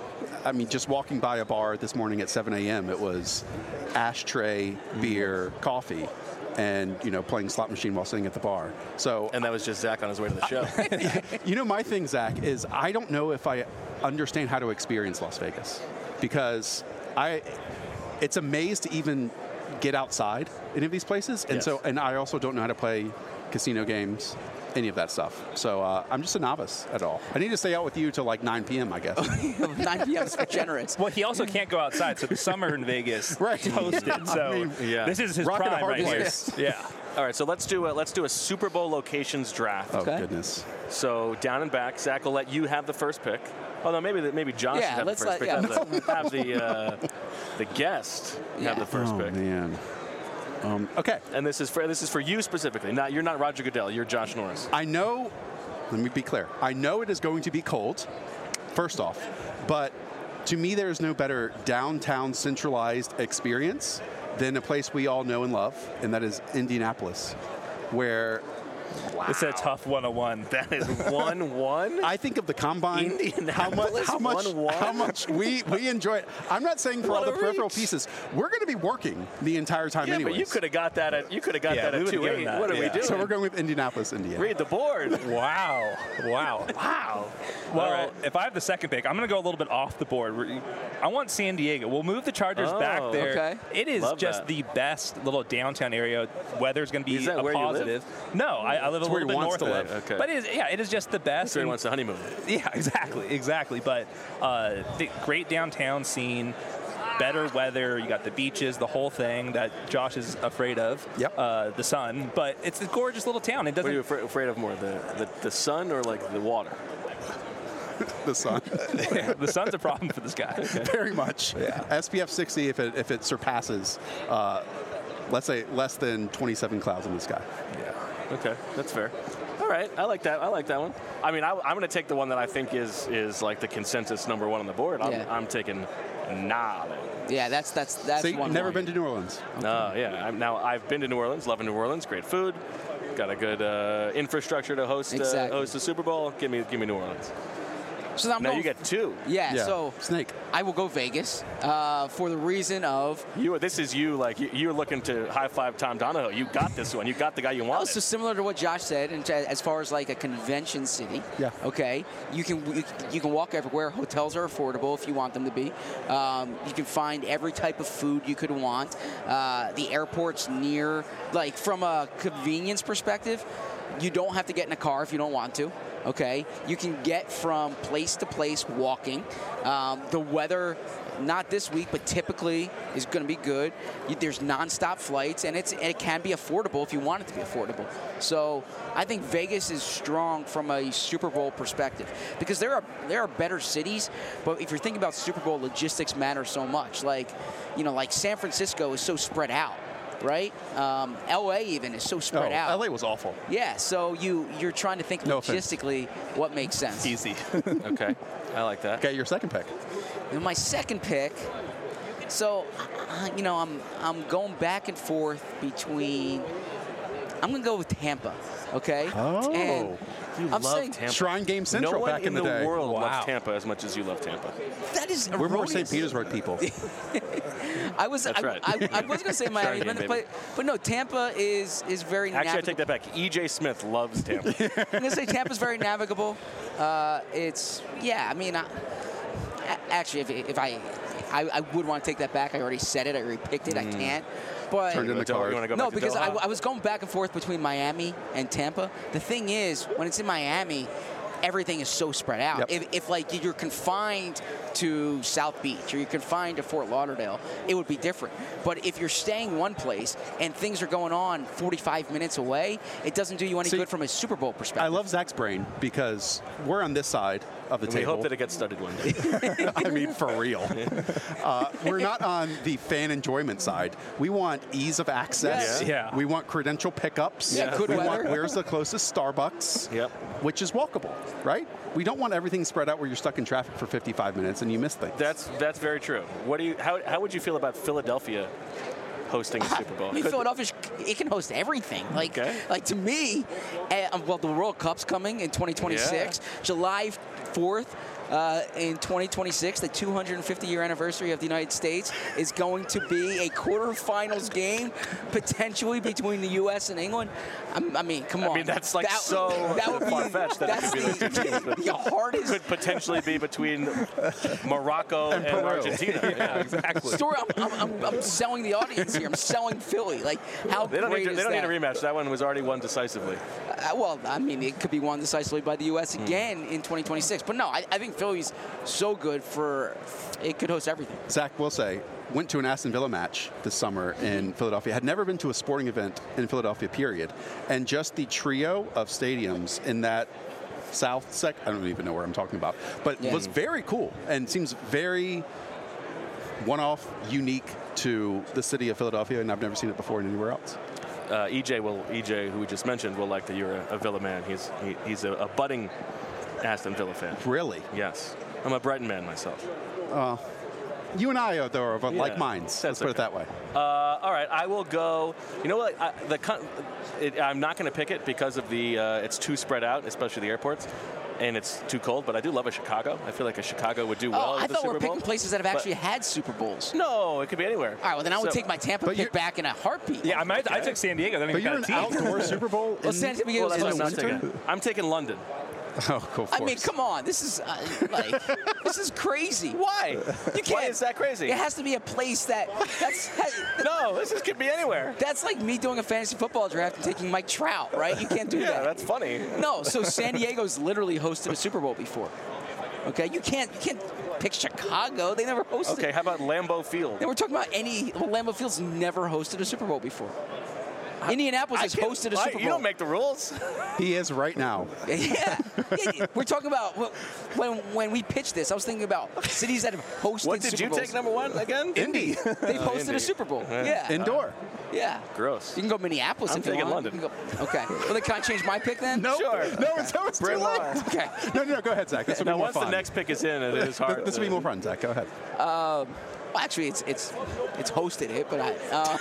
I mean, just walking by a bar this morning at 7 a.m., it was ashtray, beer, coffee, and playing slot machine while sitting at the bar. So, and that was just Zach on his way to the show. My thing, Zach, is I don't know if I understand how to experience Las Vegas, because it's a maze to even get outside any of these places, and I also don't know how to play casino games, any of that stuff. So I'm just a novice at all. I need to stay out with you till like 9 p.m., I guess. 9 p.m. is generous. Well, he also can't go outside, so the summer in Vegas toasted. So this is his prime right here. Yeah. All right, so let's do a Super Bowl locations draft. Oh, goodness. So down and back, Zach will let you have the first pick. Oh no, maybe Josh should have the first pick. Have the guest have the first pick. Oh man. Okay. And this is for you specifically. You're not Roger Goodell. You're Josh Norris. I know. Let me be clear. I know it is going to be cold. First off, but to me, there is no better downtown centralized experience than a place we all know and love, and that is Indianapolis, where. Wow. It's a tough 101. That is 1-1. I think of the Combine, how much we enjoy it. I'm not saying for all the peripheral pieces. We're going to be working the entire time anyway. But you could have got that at 2-8. What are we doing? So we're going with Indianapolis, Indiana. Read the board. Wow. Well, if I have the second pick, I'm going to go a little bit off the board. I want San Diego. We'll move the Chargers back there. Okay. It is the best little downtown area. Weather's going to be is that a where positive. You live? No, I live a little bit north of it. Okay. But it is just the best. So he wants to honeymoon. Yeah, exactly. But the great downtown scene, better weather. You got the beaches, the whole thing that Josh is afraid of. Yep. The sun, but it's a gorgeous little town. It doesn't. What are you afraid of more, the sun or like the water? The sun. The sun's a problem for this guy. Okay. Very much. Yeah. SPF 60 if it surpasses, let's say, less than 27 clouds in the sky. Yeah. Okay, that's fair. All right, I like that one. I mean, I'm going to take the one that I think is like the consensus number one on the board. I'm taking Nolens. Yeah, that's So you've one. never been to New Orleans? No, yeah. I've been to New Orleans, loving New Orleans, great food, got a good infrastructure to host host the Super Bowl. Give me New Orleans. So I'm now going, you get two. Yeah, so Snake. I will go Vegas for the reason of This is you like you're looking to high five Tom Donahoe. You got this one. You got the guy you wanted. also similar to what Josh said, and as far as like a convention city. Yeah. Okay. You can walk everywhere. Hotels are affordable if you want them to be. You can find every type of food you could want. The airport's near. Like from a convenience perspective, you don't have to get in a car if you don't want to. Okay, you can get from place to place walking. The weather, not this week, but typically is going to be good. There's nonstop flights, and it can be affordable if you want it to be affordable. So I think Vegas is strong from a Super Bowl perspective because there are better cities, but if you're thinking about Super Bowl, logistics matter so much. Like San Francisco is so spread out. Right? LA even is so spread out. LA was awful. Yeah, so you're trying to think logistically what makes sense. Easy. Okay, I like that. Okay, your second pick. And my second pick, so I'm going back and forth between. I'm gonna go with Tampa. Okay. Oh. And I'm saying Tampa. Shrine Game Central no one back in the day. world Wow. loves Tampa as much as you love Tampa. that is We're more erroneous. St. Petersburg people. I was right. I was gonna say Miami, Shrine game, but no, Tampa is very. Actually, I navigable. take that back. E.J. Smith loves Tampa. I'm gonna say Tampa's very navigable. Actually, if I would want to take that back. I already said it. I already picked it. I can't. But Turned in the card. You want to go no, back to because Doha? I was going back and forth between Miami and Tampa. The thing is, when it's in Miami, everything is so spread out. Yep. If like you're confined to South Beach or you're confined to Fort Lauderdale, it would be different. But if you're staying one place and things are going on 45 minutes away, it doesn't do you any good from a Super Bowl perspective. I love Zach's brain because we're on this side of the We table. hope that it gets studied one day. I mean, for real. We're not on the fan enjoyment side. We want ease of access. Yes. Yeah. We want credential pickups. Yeah, good we weather. want where's the closest Starbucks, Yep. which is walkable, right? We don't want everything spread out where you're stuck in traffic for 55 minutes and you miss things. That's very true. How would you feel about Philadelphia hosting a Super Bowl? I mean, Philadelphia, it can host everything. Like to me, the World Cup's coming in 2026. Yeah. July 4th in 2026, the 250-year anniversary of the United States is going to be a quarterfinals game, potentially between the U.S. and England. I mean, come on. I mean, that's like that would be far-fetched that it that's could be those two teams, but the hardest could potentially be between Morocco and Peru. Argentina. Yeah, exactly. story. I'm selling the audience here. I'm selling Philly. Like, how They don't great need is a that? rematch. That one was already won decisively. Well, I mean, it could be won decisively by the U.S. again in 2026. But no, I think Philly's so good for it could host everything. Zach will say, went to an Aston Villa match this summer in Philadelphia. Had never been to a sporting event in Philadelphia, period. And just the trio of stadiums in that south sec, I don't even know where I'm talking about, but was very cool and seems very one-off, unique to the city of Philadelphia, and I've never seen it before anywhere else. EJ, who we just mentioned, will like that you're a Villa man. He's a budding Aston Villa fan. Really? Yes. I'm a Brighton man myself. You and I are of like minds. Let's put it that way. All right, I will go. You know what? I'm not going to pick it because of the it's too spread out, especially the airports, and it's too cold. But I do love a Chicago. I feel like a Chicago would do well. I at the thought Super we were Bowl. picking places that have actually had Super Bowls. No, it could be anywhere. All right, well then I would take my Tampa but pick back in a heartbeat. Yeah, I took San Diego. Then But we you're got an a team. outdoor Super Bowl Well, San Diego Well, that's is what I'm in not the winter. taking. I'm taking London. Oh, go for I mean, come on. This is this is crazy. Why? You can't. Why is that crazy? It has to be a place that's. No, this could be anywhere. That's like me doing a fantasy football draft and taking Mike Trout, right? You can't do that. Yeah, that's funny. No, so San Diego's literally hosted a Super Bowl before. Okay, you can't pick Chicago. They never hosted. Okay, how about Lambeau Field? And we're talking about Lambeau Field's never hosted a Super Bowl before. Indianapolis has hosted a Super Bowl. You don't make the rules. He is right now. Yeah. We're talking about when we pitched this, I was thinking about cities that have hosted What did Super you Bowls. take number one again? Indy. They've hosted Indy. a Super Bowl. Yeah. Indoor. Yeah. Gross. You can go Minneapolis I'm if you taking want. London. You can go, okay. Well, then can I change my pick then? No. Sure. No, it's too Bryn late. Mawr. Okay. No, go ahead, Zach. This will Now, be more once fun. the next pick is in, it is hard. This will be more fun, Zach. Go ahead. Well, actually, it's hosted it, but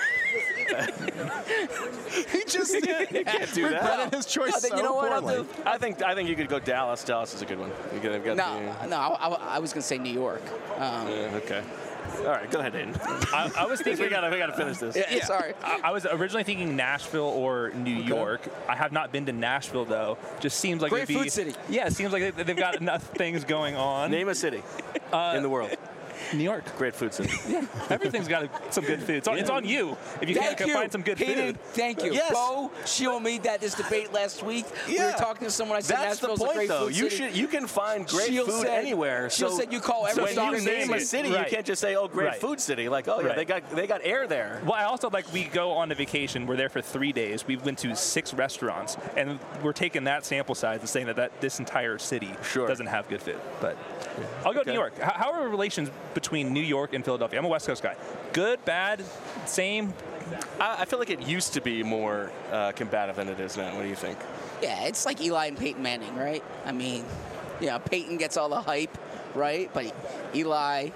He just You can't do that. regretted his choice No, then so you know what I'll poorly. do? I think you could go Dallas. Dallas is a good one. They've got No, I was gonna say New York. Okay. All right, go ahead, Aiden. I was thinking we gotta finish this. Yeah. Sorry. I was originally thinking Nashville or New York. I have not been to Nashville though. Just seems like Great it'd be, food city. Yeah, it seems like they've got enough things going on. Name a city in the world. New York. Great food city. Yeah, everything's got some good food. It's on you if you Thank can't you. find some good Hayden, food. thank you. Yes. Bo showed me that this debate last week. We were talking to someone. I said That's the Nashville's a point, great though. food city. You can find great Sheil food said- anywhere. Sheil So said you call every when song you a name a city. city, Right. you can't just say, "Oh, great Right. food city." Like, oh yeah, Right. they got air there. Well, I also we go on a vacation. We're there for 3 days. We went to 6 restaurants, and we're taking that sample size and saying that this entire city doesn't have good food. But I'll go to New York. How are relations between New York and Philadelphia? I'm a West Coast guy. Good, bad, same? I feel like it used to be more combative than it is now. What do you think? Yeah, it's like Eli and Peyton Manning, right? I mean, yeah, Peyton gets all the hype, right? But Eli,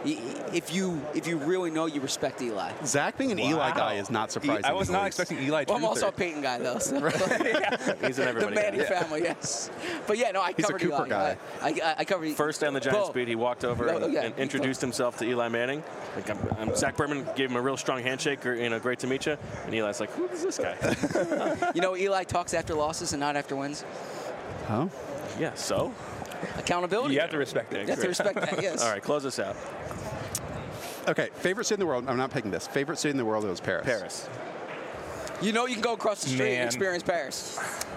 if you really know, you respect Eli. Zach being an Eli guy is not surprising. I was in the not least. expecting Eli to Well, I'm also a Peyton guy, though. So. He's in The everybody. Manning family, yes. But yeah, no, I He's a covered Cooper Eli. guy. I covered First down the Giants Bo. beat, he walked over Oh, yeah. and introduced himself to Eli Manning. Zach Berman gave him a real strong handshake. Great to meet you. And Eli's like, who is this guy? You know, Eli talks after losses and not after wins. Huh? Yeah. So. Accountability. You have to respect it. You have to respect that, yes. All right, close us out. Okay, favorite city in the world. I'm not picking this. Favorite city in the world was Paris. Paris. You know you can go across the street and Man. experience Paris.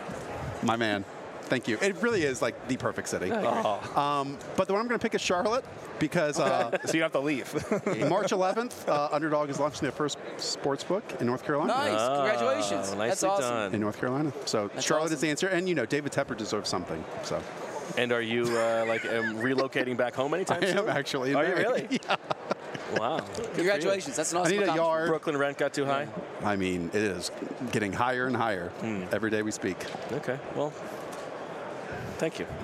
My man. Thank you. It really is like the perfect city. But the one I'm going to pick is Charlotte because So you have to leave. March 11th, Underdog is launching their first sports book in North Carolina. Nice. Congratulations. nicely That's awesome. done. In North Carolina. So That's Charlotte awesome. is the answer. And, David Tepper deserves something. So And are you relocating back home anytime I soon? am actually. Are you married. really? Yeah. Wow. Good for you. Congratulations. That's an I awesome need a accomplishment. yard. Brooklyn rent got too high? I mean, it is getting higher and higher every day we speak. Okay. Well, thank you.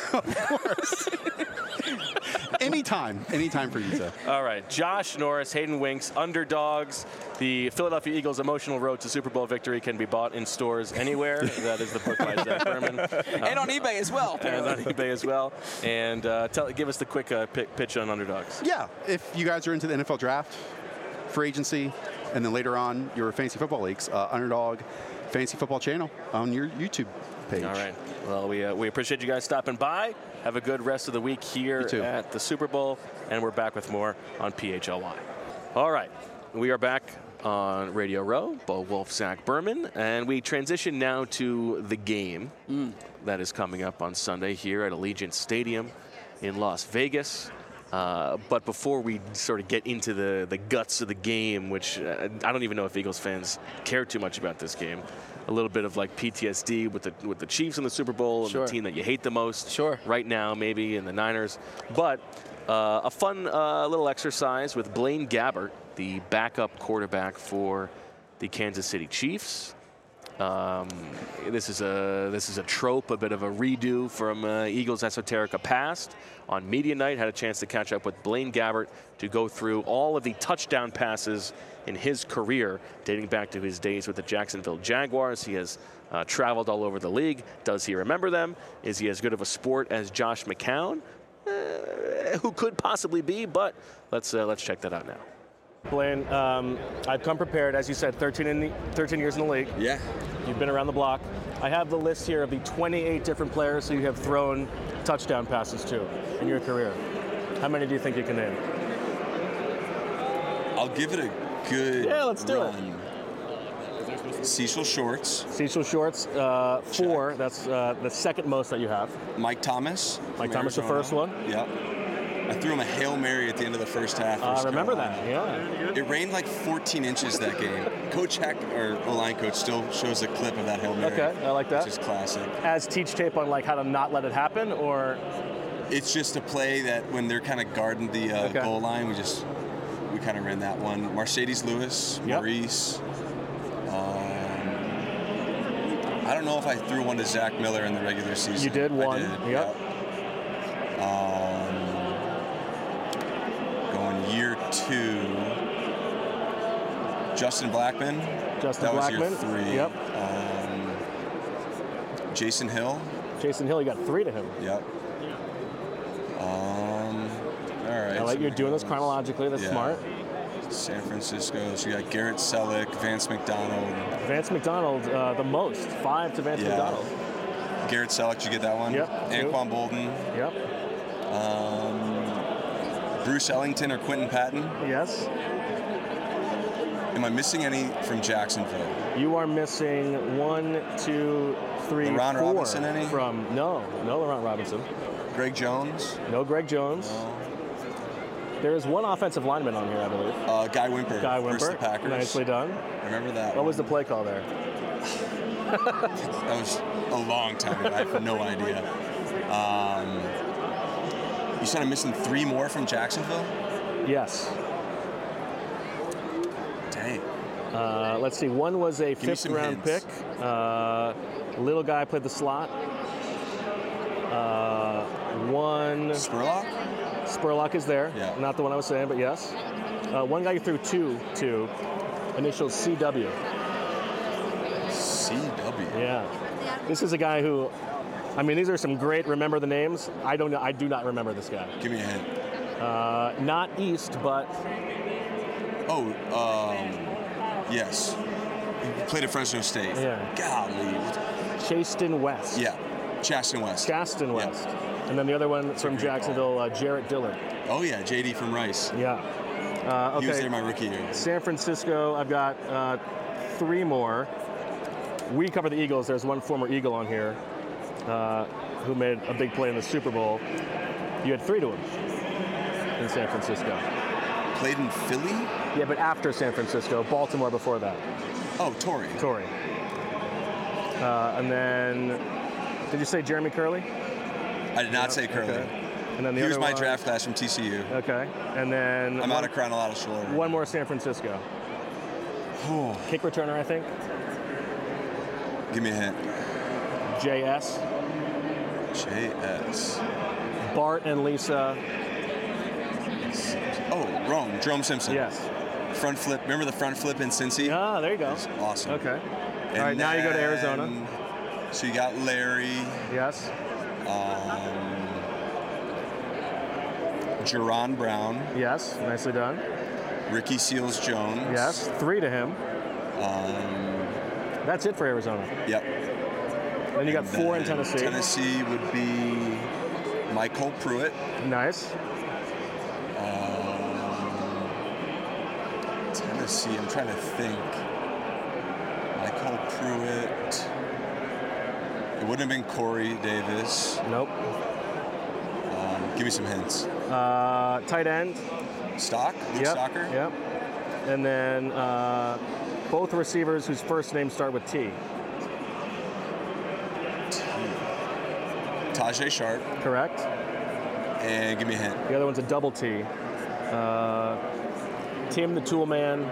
Anytime for you, sir. All right. Josh Norris, Hayden Winks, Underdogs. The Philadelphia Eagles' emotional road to Super Bowl victory can be bought in stores anywhere. That is the book by Zach Berman. And on eBay as well. And apparently. on eBay as well. And give us the quick pitch on Underdogs. Yeah, if you guys are into the NFL draft, free agency, and then later on your fantasy football leagues, Underdog Fantasy Football channel on your YouTube page. All right. Well, we appreciate you guys stopping by. Have a good rest of the week here You too. at the Super Bowl. And we're back with more on PHLY. All right. We are back on Radio Row. Bo Wolf, Zach Berman. And we transition now to the game that is coming up on Sunday here at Allegiant Stadium in Las Vegas. But before we sort of get into the guts of the game, which I don't even know if Eagles fans care too much about this game, a little bit of like PTSD with the Chiefs in the Super Bowl and Sure. the team that you hate the most Sure. right now, maybe, and the Niners. But a fun little exercise with Blaine Gabbert, the backup quarterback for the Kansas City Chiefs. This is a trope, a bit of a redo from Eagles Esoterica past. On media night, had a chance to catch up with Blaine Gabbert to go through all of the touchdown passes in his career, dating back to his days with the Jacksonville Jaguars. He has traveled all over the league. Does he remember them? Is he as good of a sport as Josh McCown? Who could possibly be? But let's check that out now. Blaine, I've come prepared, as you said, 13 years in the league. Yeah. You've been around the block. I have the list here of the 28 different players who you have thrown touchdown passes to in your career. How many do you think you can name? I'll give it a good let's do it. Cecil Shorts. Cecil Shorts, 4. That's the second most that you have. Mike Thomas. Mike Thomas, the first one. Yep. I threw him a Hail Mary at the end of the first half. I remember that, yeah. It rained like 14 inches that game. Coach Heck, our O-line coach, still shows a clip of that Hail Mary. Okay, I like that. Which is classic. As teach tape on like how to not let it happen, or? It's just a play that when they're kind of guarding the goal line, we kind of ran that one. Mercedes Lewis, Maurice. I don't know if I threw one to Zach Miller in the regular season. You did one. I did, yep. Going year 2. Justin Blackman. That was year 3. Yep. Jason Hill. Jason Hill, you got 3 to him. Yep. All right. I like you're doing this chronologically. That's smart. San Francisco. So you got Garrett Selleck, Vance McDonald. Vance McDonald, the most. 5 to Vance McDonald. Garrett Selleck, did you get that one? Yep. Anquan Bolden. Yep. Bruce Ellington or Quentin Patton. Yes. Am I missing any from Jacksonville? You are missing 1, 2, 3, LaRon 4 Robinson, any? No LaRon Robinson. Greg Jones? No Greg Jones. No. There is one offensive lineman on here, I believe. Guy Wimper. Guy Wimper. Versus the Packers. Nicely done. Remember that. What was the play call there? That was a long time ago. I have no idea. You said I'm missing 3 more from Jacksonville? Yes. Dang. Let's see. One was a 5th-round pick. Little guy played the slot. One. Spurlock is there. Yeah. Not the one I was saying, but yes. One guy you threw 2 to. Initials CW. CW. Yeah. This is a guy who, I mean, these are some great. Remember the names? I don't know. I do not remember this guy. Give me a hint. Not East, but. Yes. He played at Fresno State. Yeah. Golly. Chaston West. Yeah. Chaston West. Chaston West. Yeah. And then the other one from Jacksonville, Jarrett Dillard. Oh, yeah. JD from Rice. Yeah. Okay. He was there my rookie year. San Francisco, I've got 3 more. We cover the Eagles. There's one former Eagle on here who made a big play in the Super Bowl. You had 3 to him in San Francisco. Played in Philly? Yeah, but after San Francisco. Baltimore before that. Oh, Torrey. And then, did you say Jeremy Curley? I did not say Curley. Okay. And then the Here's other my one, draft class from TCU. Okay. And then I'm out of chronological order. One more San Francisco. Kick returner, I think. Give me a hint. JS. Bart and Lisa. Oh, Rome. Jerome Simpson. Yes. Front flip. Remember the front flip in Cincy? Ah, there you go. That's awesome. Okay. And all right, now you go to Arizona. So you got Larry. Yes. Jerron Brown. Yes, nicely done. Ricky Seals-Jones. Yes, 3 to him. That's it for Arizona. Yep. Then you got 4 in Tennessee. Tennessee would be Michael Pruitt. Nice. Tennessee, I'm trying to think. Michael Pruitt. It wouldn't have been Corey Davis. Nope. Give me some hints. Tight end. Stock? Luke Stocker? Yep. And then both receivers whose first names start with T. Tajay Sharp. Correct. And give me a hint. The other one's a double T. Tim the Tool Man.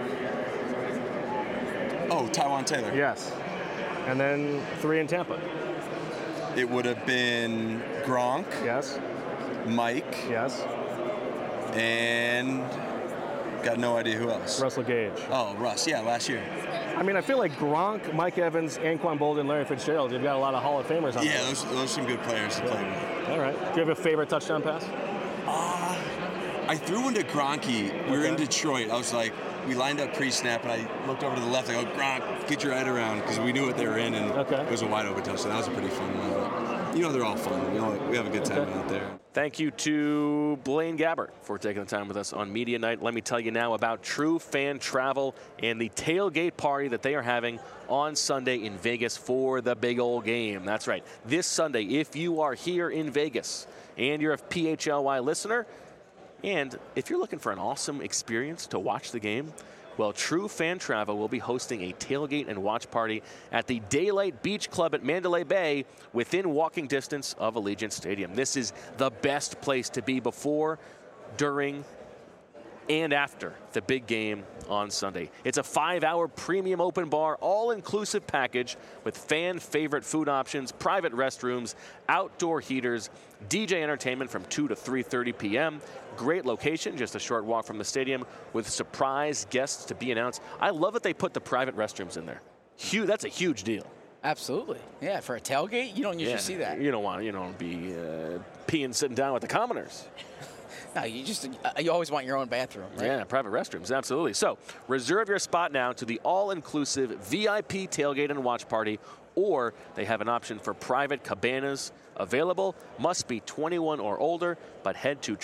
Oh, Tywan Taylor. Yes. And then 3 in Tampa. It would have been Gronk. Yes. Mike. Yes. And got no idea who else. Russell Gage. Oh, Russ. Yeah, last year. I mean, I feel like Gronk, Mike Evans, Anquan Bolden, Larry Fitzgerald. You've got a lot of Hall of Famers on there. Yeah, those are some good players to play with. All right. Do you have a favorite touchdown pass? I threw one to Gronky. We were in Detroit. I was like, we lined up pre-snap, and I looked over to the left. I go, Gronk, get your head around, because we knew what they were in, and it was a wide open touchdown. That was a pretty fun one. But, you know, they're all fun. We have a good time out there. Thank you to Blaine Gabbert for taking the time with us on Media Night. Let me tell you now about True Fan Travel and the tailgate party that they are having on Sunday in Vegas for the big old game. That's right. This Sunday, if you are here in Vegas and you're a PHLY listener, and if you're looking for an awesome experience to watch the game, well, True Fan Travel will be hosting a tailgate and watch party at the Daylight Beach Club at Mandalay Bay within walking distance of Allegiant Stadium. This is the best place to be before, during, and after the big game on Sunday. It's a 5-hour premium open bar, all-inclusive package with fan-favorite food options, private restrooms, outdoor heaters, DJ entertainment from 2 to 3:30 p.m. Great location, just a short walk from the stadium with surprise guests to be announced. I love that they put the private restrooms in there. That's a huge deal. Absolutely. Yeah, for a tailgate, you don't usually see that. You don't want to be peeing sitting down with the commoners. No, you always want your own bathroom, right? Yeah, private restrooms, absolutely. So reserve your spot now to the all-inclusive VIP tailgate and watch party, or they have an option for private cabanas available. Must be 21 or older, but head to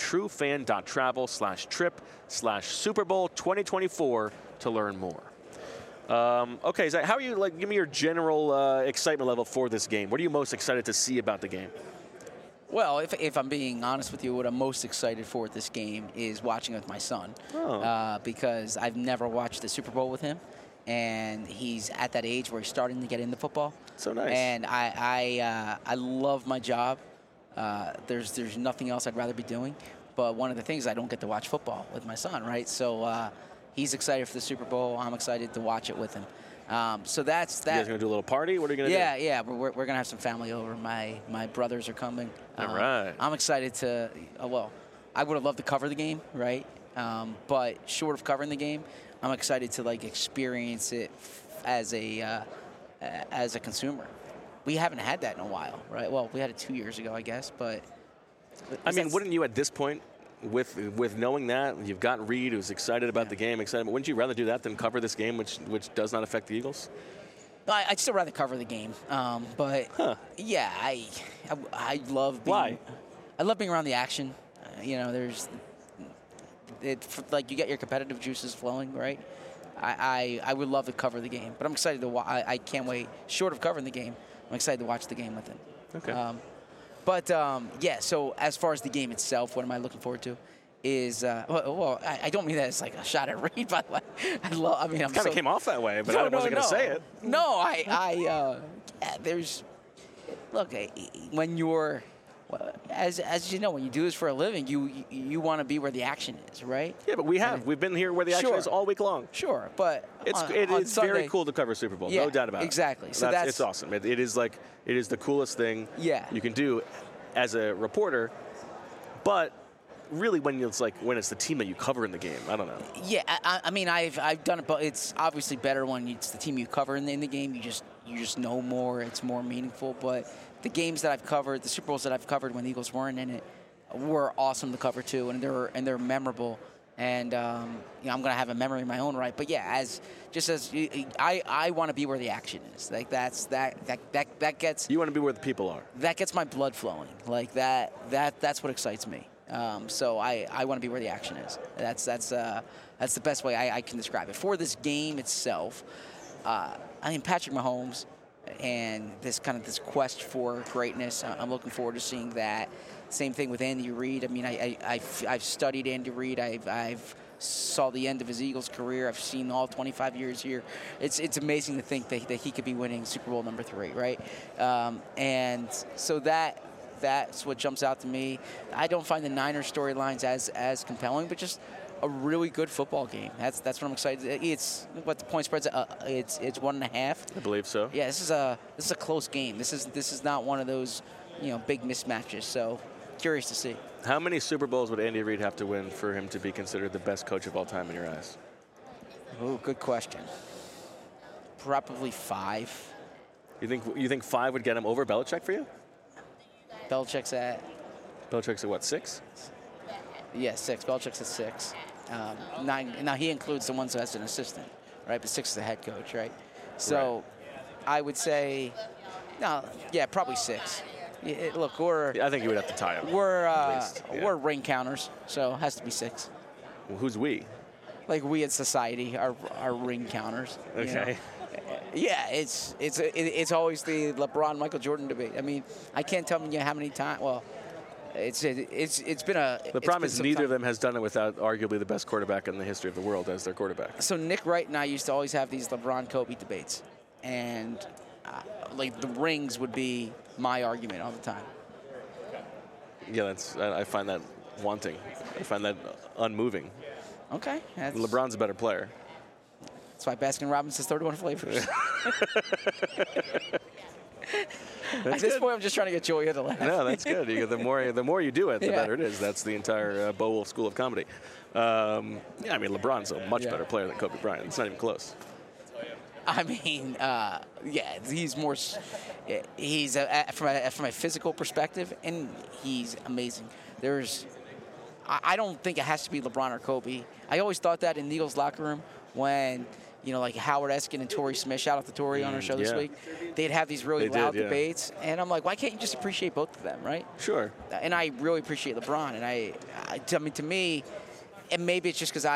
truefan.travel/trip/Super Bowl 2024 to learn more. Okay, Zach, how are you? Give me your general excitement level for this game. What are you most excited to see about the game? Well, if I'm being honest with you, what I'm most excited for at this game is watching with my son. Because I've never watched the Super Bowl with him, and he's at that age where he's starting to get into football. So nice. And I love my job. There's nothing else I'd rather be doing. But one of the things, I don't get to watch football with my son, right? So he's excited for the Super Bowl. I'm excited to watch it with him. So that's that. You guys gonna do a little party? What are you gonna do? Yeah. We're gonna have some family over. My brothers are coming. All right. I'm excited to. Well, I would have loved to cover the game, right? But short of covering the game, I'm excited to experience it as a consumer. We haven't had that in a while, right? Well, we had it 2 years ago, I guess. But I mean, wouldn't you at this point? With knowing that, you've got Reed, who's excited about the game, but wouldn't you rather do that than cover this game, which does not affect the Eagles? I'd still rather cover the game, but yeah, I love being. Why? I love being around the action. There's you get your competitive juices flowing, right? I would love to cover the game, but I'm excited to watch. I can't wait. Short of covering the game, I'm excited to watch the game with him. Okay. But, so as far as the game itself, what am I looking forward to is, I don't mean that as a shot at Reed, by the way. I'm kind of came off that way, but I wasn't going to say it. No, when you're, as you know, when you do this for a living, you want to be where the action is, right? Yeah, but we've been here where the action is all week long. Sure, but it is Sunday, very cool to cover Super Bowl, no doubt about it. Exactly. So it's awesome. It is the coolest thing you can do as a reporter, but really when it's the team that you cover in the game, I don't know. Yeah, I mean I've done it, but it's obviously better when it's the team you cover in the game. You just know more. It's more meaningful. But the games that I've covered, the Super Bowls that I've covered when the Eagles weren't in it, were awesome to cover too, and they're memorable. And I'm going to have a memory in my own right. But yeah, I want to be where the action is. That gets. You want to be where the people are. That gets my blood flowing. That's what excites me. So I want to be where the action is. That's the best way I can describe it. For this game itself, Patrick Mahomes and this quest for greatness. I'm looking forward to seeing that. Same thing with Andy Reid. I mean, I've studied Andy Reid. I've saw the end of his Eagles career. I've seen all 25 years here. It's amazing to think that he could be winning Super Bowl number 3, right? And so that's what jumps out to me. I don't find the Niners storylines as compelling, but just a really good football game. That's what I'm excited. It's what the point spread's. It's 1.5. I believe so. Yeah, this is a close game. This is not one of those big mismatches. So curious to see. How many Super Bowls would Andy Reid have to win for him to be considered the best coach of all time in your eyes? Oh, good question. Probably 5. You think 5 would get him over Belichick for you? Belichick's at what, 6? Yeah, 6. Belichick's at 6. 9. Now he includes the ones who has an assistant, right? But 6 is the head coach, right? So I would say, probably 6. Look, I think you would have to tie him. We're ring counters, so it has to be 6. Well, who's we? Like we in society are ring counters. Okay. Yeah, it's always the LeBron Michael Jordan debate. I mean, I can't tell you how many times. Well, it's been a. The problem is neither of them has done it without arguably the best quarterback in the history of the world as their quarterback. So Nick Wright and I used to always have these LeBron Kobe debates, and like the rings would be my argument all the time. Yeah, I find that wanting. I find that unmoving. Okay. LeBron's a better player. That's why Baskin-Robbins has 31 flavors. At this point, I'm just trying to get Julia to laugh. No, that's good. The more you do it, the better it is. That's the entire Bo Wolf School of Comedy. I mean, LeBron's a much better player than Kobe Bryant. It's not even close. I mean, he's more. He's from a physical perspective, and he's amazing. I don't think it has to be LeBron or Kobe. I always thought that in the Eagles locker room when, like Howard Eskin and Torrey Smith, shout out to Torrey on our show this week, they'd have these really loud debates. And I'm like, why can't you just appreciate both of them, right? Sure. And I really appreciate LeBron. And I mean, to me, and maybe it's just because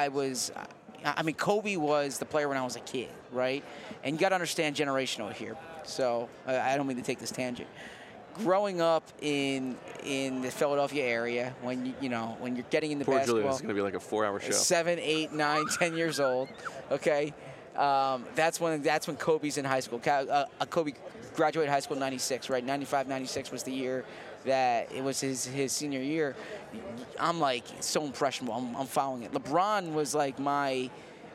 Kobe was the player when I was a kid, right? And you got to understand generational here. So I don't mean to take this tangent. Growing up in the Philadelphia area, when when you're getting into basketball, Julian, it's going to be like a 4-hour show. 7, 8, 9, 10 years old. Okay, that's when Kobe's in high school. Kobe graduated high school in '96, right? 95, 96 was the year that it was his senior year. I'm like so impressionable. I'm following it. LeBron was like my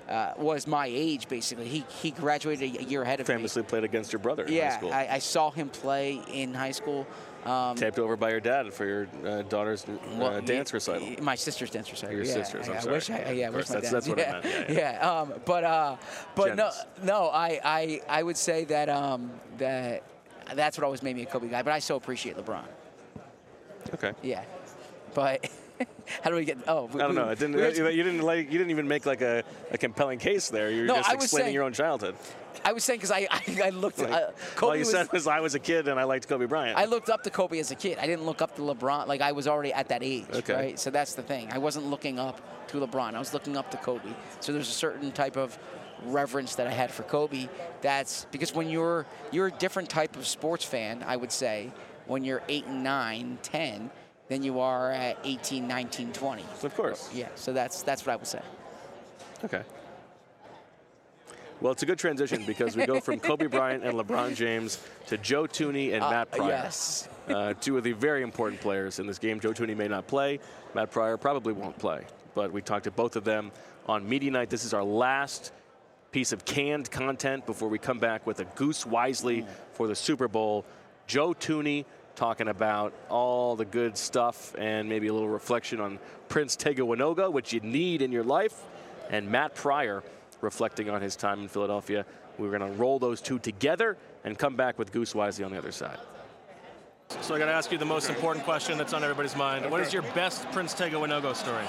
age, basically. He graduated a year ahead of me. Famously played against your brother in high school. I saw him play in high school. Taped over by your dad for your daughter's dance recital. My sister's dance recital. Your sister's, I'm sorry. I wish my dad's. That's what I meant. Yeah. But no, I would say that that's what always made me a Kobe guy. But I so appreciate LeBron. Okay. Yeah, but. How do we get? Oh, I don't know. It didn't. You didn't even make like a compelling case there. You're just explaining your own childhood. I was saying because I looked at Kobe. All you said was I was a kid and I liked Kobe Bryant. I looked up to Kobe as a kid. I didn't look up to LeBron. Like I was already at that age, right? So that's the thing. I wasn't looking up to LeBron. I was looking up to Kobe. So there's a certain type of reverence that I had for Kobe. That's because when you're a different type of sports fan, I would say, when you're 8 and 9, 10. Than you are at 18, 19, 20. Of course. Yeah, so that's what I would say. Okay. Well, it's a good transition because we go from Kobe Bryant and LeBron James to Joe Thuney and Matt Pryor. Yes. Two of the very important players in this game. Joe Thuney may not play. Matt Pryor probably won't play. But we talked to both of them on Media Night. This is our last piece of canned content before we come back with a Goose Wisely for the Super Bowl. Joe Thuney talking about all the good stuff and maybe a little reflection on Prince Tega Wanogho, which you need in your life, and Matt Pryor reflecting on his time in Philadelphia. We're going to roll those two together and come back with Goose Wisely on the other side. So I got to ask you the most important question that's on everybody's mind. What is your best Prince Tega Wanogho story?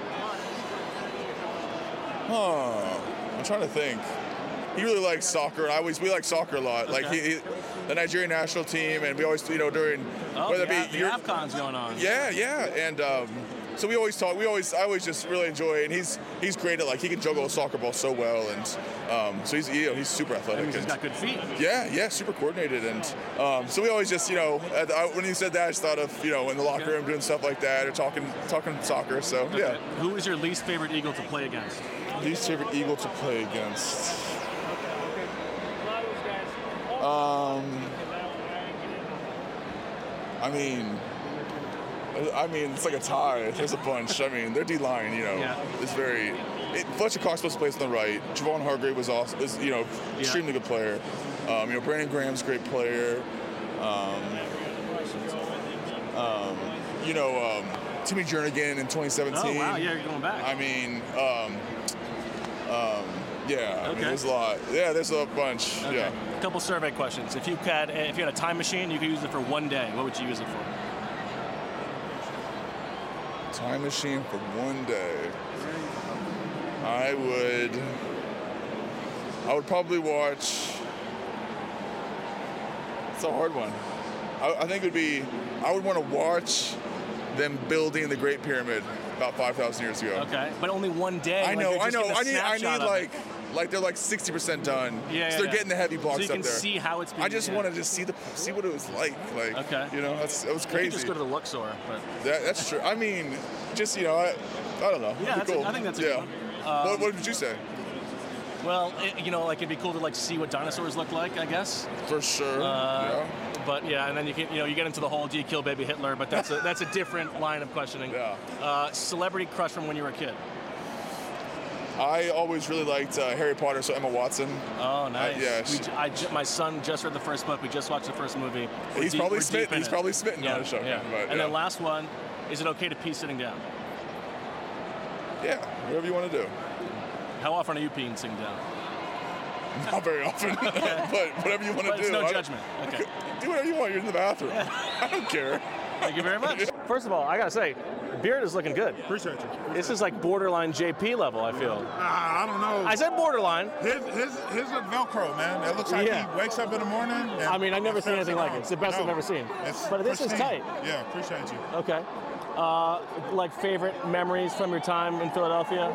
I'm trying to think. He really likes soccer. We like soccer a lot. Okay. Like the Nigerian national team, and we always, during whether it be the AFCON's going on. Yeah, and so we always talk. I always just really enjoy it. And he's great at he can juggle a soccer ball so well, and so he's super athletic. He's got good feet. Yeah, super coordinated, and so we always just when you said that, I just thought of in the locker room doing stuff like that or talking soccer. So okay. Yeah. Who is your least favorite Eagle to play against? Least favorite Eagle to play against. I mean, it's like a tie. There's a bunch. I mean, their D-line, is very. Fletcher Cox supposed to play on the right. Javon Hargrave is extremely good player. Brandon Graham's a great player. Timmy Jernigan in 2017. Oh wow, yeah, you're going back. I mean, yeah, okay. There's a lot. Yeah, there's a bunch. Okay. Yeah. A couple survey questions. If you had a time machine, you could use it for one day. What would you use it for? Time machine for one day. I would probably watch. It's a hard one. I think I would want to watch them building the Great Pyramid about 5,000 years ago. Okay, but only one day. I know. I need like they're like 60% done. Yeah, so they're getting the heavy blocks so you can up there. see how it's being. I just wanted to see what it was like. Okay. You know, that was You crazy. can just go to the Luxor. But That's true. I mean, just I don't know. Yeah, It'd be cool. I think that's a good one. What would you say? Well, it'd be cool to see what dinosaurs look like, I guess. For sure. Yeah. But yeah, and then you get into the whole do you kill baby Hitler? But that's a different line of questioning. Yeah. Celebrity crush from when you were a kid. I always really liked Harry Potter, so Emma Watson. Oh, nice. Yeah. My son just read the first book. We just watched the first movie. He's probably smitten yeah, on the show. Yeah. But, and then last one, is it okay to pee sitting down? Yeah, whatever you want to do. How often are you peeing sitting down? Not very often, but whatever you want to do. It's no judgment. Okay. Do whatever you want. You're in the bathroom. I don't care. Thank you very much. First of all, I gotta say, beard is looking good. Appreciate you. This is like borderline JP level, I feel. I don't know. I said borderline. His look Velcro, man. It looks like he wakes up in the morning. I mean, I've never seen anything like it. It's the best I've ever seen. But this is tight. Yeah, appreciate you. Okay. Like favorite memories from your time in Philadelphia?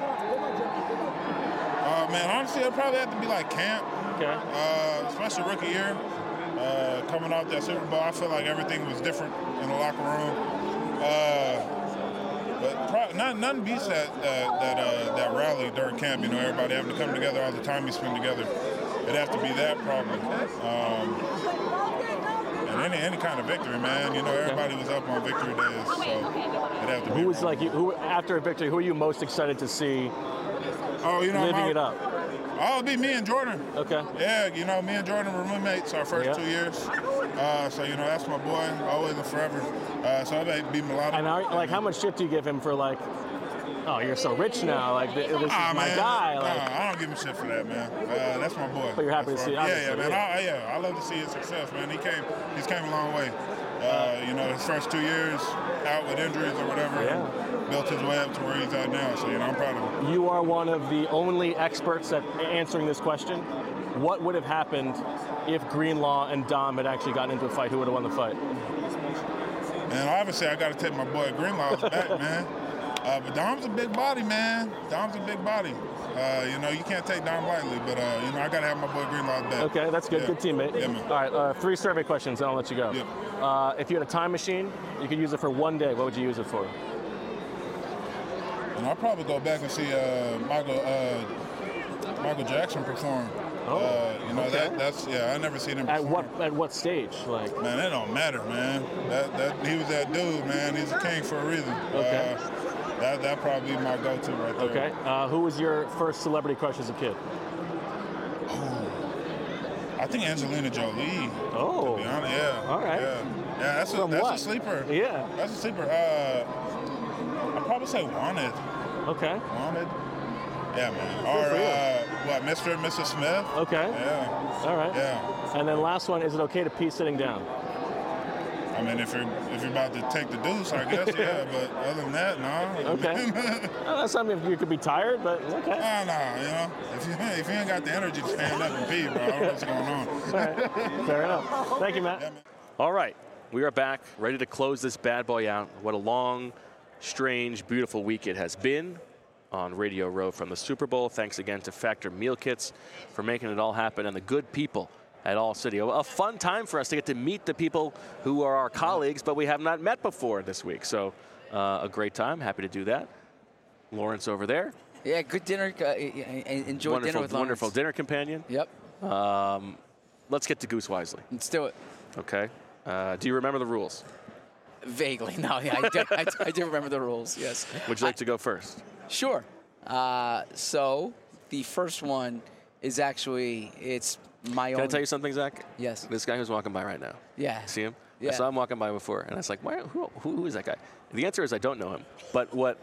Man, honestly, it'd probably have to be like camp. Okay. Especially rookie year. Coming off that Super Bowl, I feel like everything was different in the locker room. But none beats that rally during camp. Everybody having to come together all the time you spend together. It'd have to be that probably. And any kind of victory, man. Everybody was up on victory days, so it'd have to be. Who was who after a victory? Who are you most excited to see? Living it up. Oh, it'd be me and Jordan. Okay. Yeah, me and Jordan were roommates our first 2 years. So that's my boy, always and forever. So it'd be Mulatto. And how much shit do you give him for oh, you're so rich now, this is my guy. I don't give him shit for that, man. That's my boy. But you're happy to see it. Yeah, man. I love to see his success, man. He's came a long way. His first 2 years out with injuries or whatever, and built his way up to where he's at now. So, I'm proud of him. You are one of the only experts at answering this question. What would have happened if Greenlaw and Dom had actually gotten into a fight? Who would have won the fight? Man, obviously I got to take my boy Greenlaw's back, man. But Dom's a big body, man. Dom's a big body. You can't take Dom lightly, but, I got to have my boy Greenlaw's back. Okay, that's good. Yeah. Good teammate. Yeah, man. All right, 3 survey questions, and I'll let you go. Yep. If you had a time machine, you could use it for one day. What would you use it for? I'll probably go back and see Michael Jackson perform. Oh, okay. I never seen him perform. At what stage? Man, that don't matter, man. He was that dude, man. He's a king for a reason. Okay. That'd probably be my go-to right there. Okay. Who was your first celebrity crush as a kid? I think Angelina Jolie. Oh. To be honest, yeah. All right. Yeah, that's a sleeper. Yeah. That's a sleeper. I'd probably say Wanted. Okay. Wanted. Yeah, man. Or Mr. and Mrs. Smith. Okay. Yeah. All right. Yeah. And then last one, is it okay to pee sitting down? I mean, if you're about to take the deuce, I guess, yeah. But other than that, no. Okay. That's something you could be tired, but okay. No. If you ain't got the energy to stand up and pee, bro, I don't know what's going on. All right. Fair enough. Thank you, Matt. Yeah, man. All right, we are back, ready to close this bad boy out. What a long, strange, beautiful week it has been on Radio Row from the Super Bowl. Thanks again to Factor Meal Kits for making it all happen, and the good people at All City. A fun time for us to get to meet the people who are our colleagues, but we have not met before this week. So a great time. Happy to do that. Lawrence over there. Yeah, good dinner. Enjoy dinner with Lawrence. Wonderful dinner companion. Yep. Let's get to Goose Wisely. Let's do it. Okay. Do you remember the rules? Vaguely. No, yeah, I do remember the rules, yes. Would you like to go first? Sure. So the first one is actually, it's my own. Can I tell you something, Zach? Yes. This guy who's walking by right now. Yeah. See him? Yeah. I saw him walking by before, and I was like, who is that guy? The answer is I don't know him. But what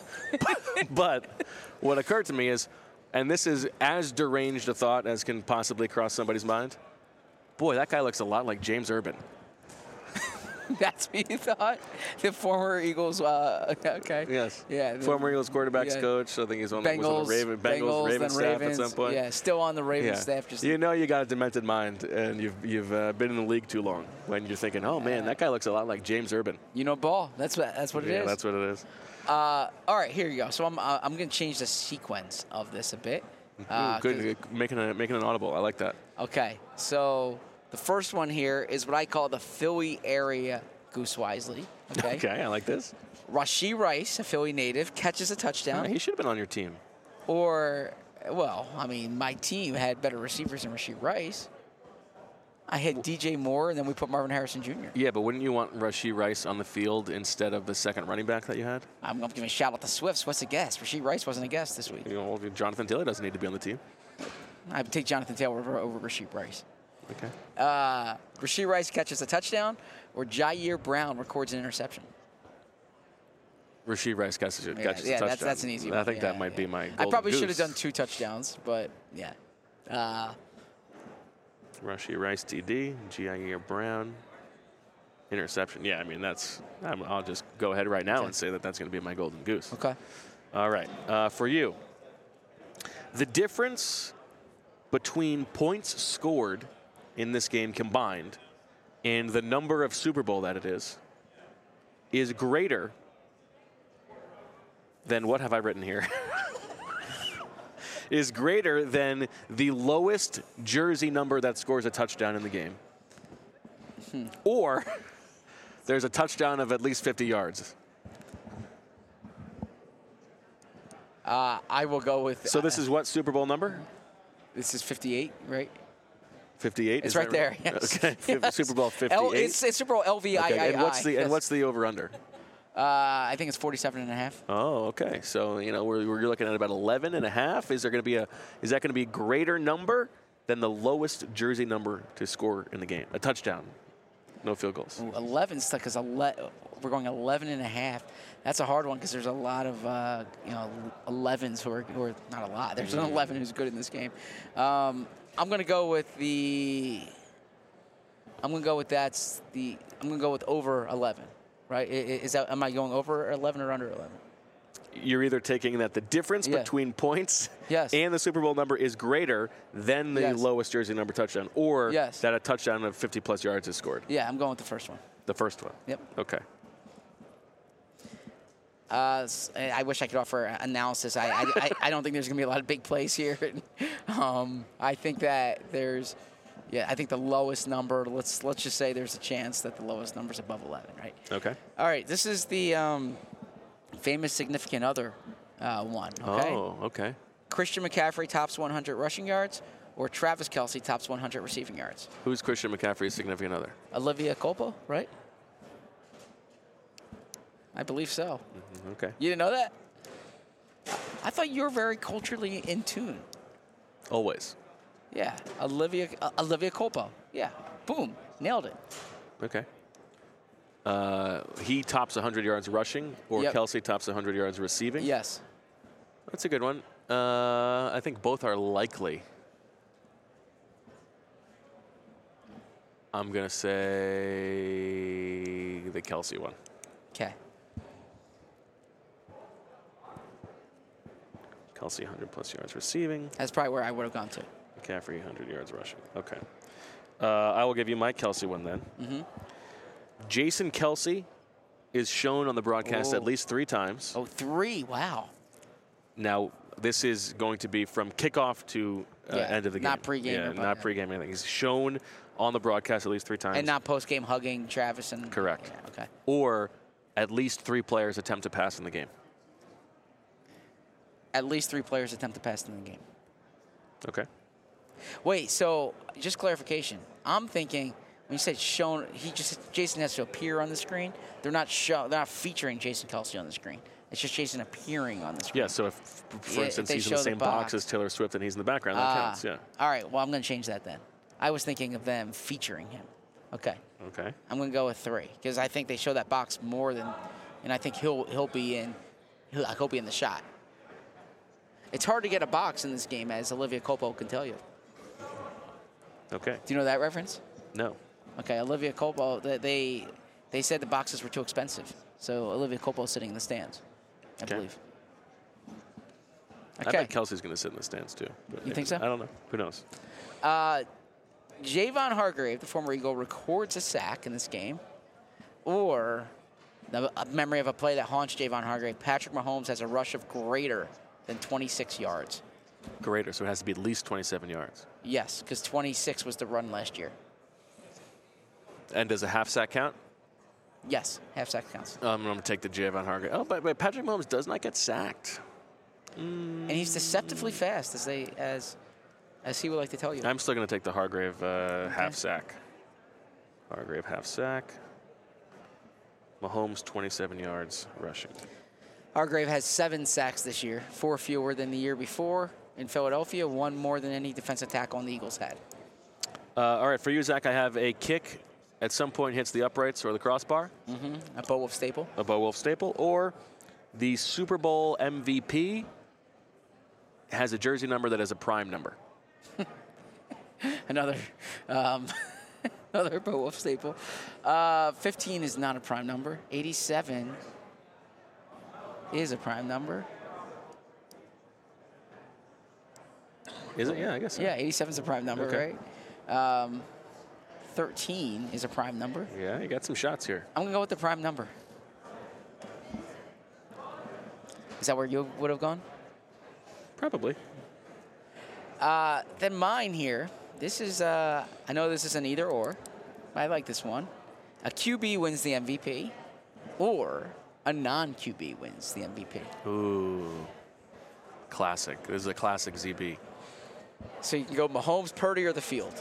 occurred to me is, and this is as deranged a thought as can possibly cross somebody's mind, boy, that guy looks a lot like James Urban. That's what you thought? The former Eagles, okay. Yes. Yeah. Former Eagles quarterbacks coach. I think he's on, was on the Bengals, Ravens staff Ravens, at some point. Yeah, still on the Ravens staff. Just you know you got a demented mind, and you've been in the league too long when you're thinking, oh, man, that guy looks a lot like James Urban. You know ball. That's what it is. Yeah, that's what it is. All right, here you go. So I'm going to change the sequence of this a bit. Good, making an audible. I like that. Okay, so the first one here is what I call the Philly area Goose Wisely. Okay, I like this. Rashee Rice, a Philly native, catches a touchdown. He should have been on your team. Or, well, I mean, my team had better receivers than Rashee Rice. I had DJ Moore, and then we put Marvin Harrison Jr. Yeah, but wouldn't you want Rashee Rice on the field instead of the second running back that you had? I'm going to give a shout out to Swifts. What's a guest? Rashee Rice wasn't a guest this week. You know, Jonathan Taylor doesn't need to be on the team. I would take Jonathan Taylor over Rashee Rice. Okay. Rashee Rice catches a touchdown, or Jair Brown records an interception. Rashee Rice catches a touchdown. That's an easy one. I think that might be my golden I probably goose. should have done 2 touchdowns, but yeah. Rashee Rice, TD, Jair Brown, interception. Yeah, I mean, I'll just go ahead right now and say that's going to be my golden goose. Okay. All right. For you, the difference between points scored in this game combined and the number of Super Bowl that it is greater than, what have I written here? Is greater than the lowest jersey number that scores a touchdown in the game. Or there's a touchdown of at least 50 yards. I will go with... So this is what Super Bowl number? This is 58, right? 58? It's right there, yes. Okay, yes. Super Bowl 58. It's Super Bowl LVII. Okay. And what's the over-under? I think it's 47.5. Oh, okay. So, we're looking at about 11.5. Is that going to be a greater number than the lowest jersey number to score in the game? A touchdown. No field goals. 11 stuck because we're going 11.5. That's a hard one because there's a lot of 11s who are not a lot. There's an 11 who's good in this game. I'm going to go with over 11. Right? Am I going over 11 or under 11? You're either taking that the difference between points and the Super Bowl number is greater than the lowest jersey number touchdown, or that a touchdown of 50-plus yards is scored. Yeah, I'm going with the first one. The first one? Yep. Okay. I wish I could offer analysis. I don't think there's going to be a lot of big plays here. I think that there's... Yeah, I think the lowest number, let's just say there's a chance that the lowest number is above 11, right? Okay. All right, this is the famous significant other one, okay? Oh, okay. Christian McCaffrey tops 100 rushing yards, or Travis Kelce tops 100 receiving yards? Who's Christian McCaffrey's significant other? Olivia Culpo, right? I believe so. Mm-hmm. Okay. You didn't know that? I thought you were very culturally in tune. Always. Yeah, Olivia Culpo. Yeah, boom, nailed it. Okay. He tops 100 yards rushing, or Kelce tops 100 yards receiving? Yes. That's a good one. I think both are likely. I'm going to say the Kelce one. Okay. Kelce 100-plus yards receiving. That's probably where I would have gone to. McCaffrey 100 yards rushing. Okay. I will give you my Kelce one then. Mm-hmm. Jason Kelce is shown on the broadcast at least 3 times. Oh, 3. Wow. Now, this is going to be from kickoff to end of the game. Not pregame. Yeah, not pregame anything. He's shown on the broadcast at least 3 times. And not postgame hugging Travis and... Correct. Yeah, okay. Or at least 3 players attempt to pass in the game. At least 3 players attempt to pass in the game. Okay. Wait, so just clarification. I'm thinking when you said shown, Jason has to appear on the screen. They're not featuring Jason Kelce on the screen. It's just Jason appearing on the screen. Yeah. So if, for instance, he's in the same box as Taylor Swift and he's in the background, that counts. Yeah. All right. Well, I'm going to change that then. I was thinking of them featuring him. Okay. Okay. I'm going to go with 3 because I think they show that box more than, and I think he'll be in the shot. It's hard to get a box in this game, as Olivia Culpo can tell you. Okay. Do you know that reference? No. Okay, Olivia Culpo, they They said the boxes were too expensive. So Olivia Copo is sitting in the stands, I believe. I bet Kelsey's going to sit in the stands, too. But You think so? I don't know. Who knows? Javon Hargrave, the former Eagle, records a sack in this game. Or, a memory of a play that haunts Javon Hargrave, Patrick Mahomes has a rush of greater than 26 yards. Greater, so it has to be at least 27 yards. Yes, because 26 was the run last year. And does a half sack count? Yes, half sack counts. I'm going to take the Javon Hargrave. Oh, but Patrick Mahomes does not get sacked. And he's deceptively fast, as he would like to tell you. I'm still going to take the Hargrave half sack. Hargrave half sack. Mahomes 27 yards rushing. Hargrave has 7 sacks this year, 4 fewer than the year before. In Philadelphia, 1 more than any defensive tackle on the Eagles had. All right, for you, Zach, I have a kick at some point hits the uprights or the crossbar. A Bo Wolf staple. A Bo Wolf staple. Or the Super Bowl MVP has a jersey number that is a prime number. Another Bo Wolf staple. 15 is not a prime number. 87 is a prime number. Is it? Yeah, I guess so. Yeah, 87 is a prime number, Okay. right? 13 is a prime number. Yeah, you got some shots here. I'm going to go with the prime number. Is that where you would have gone? Probably. Then mine here, this is, I know this is an either or. I like this one. A QB wins the MVP, or a non-QB wins the MVP. Ooh. Classic. This is a classic ZB. So you can go Mahomes, Purdy, or the field.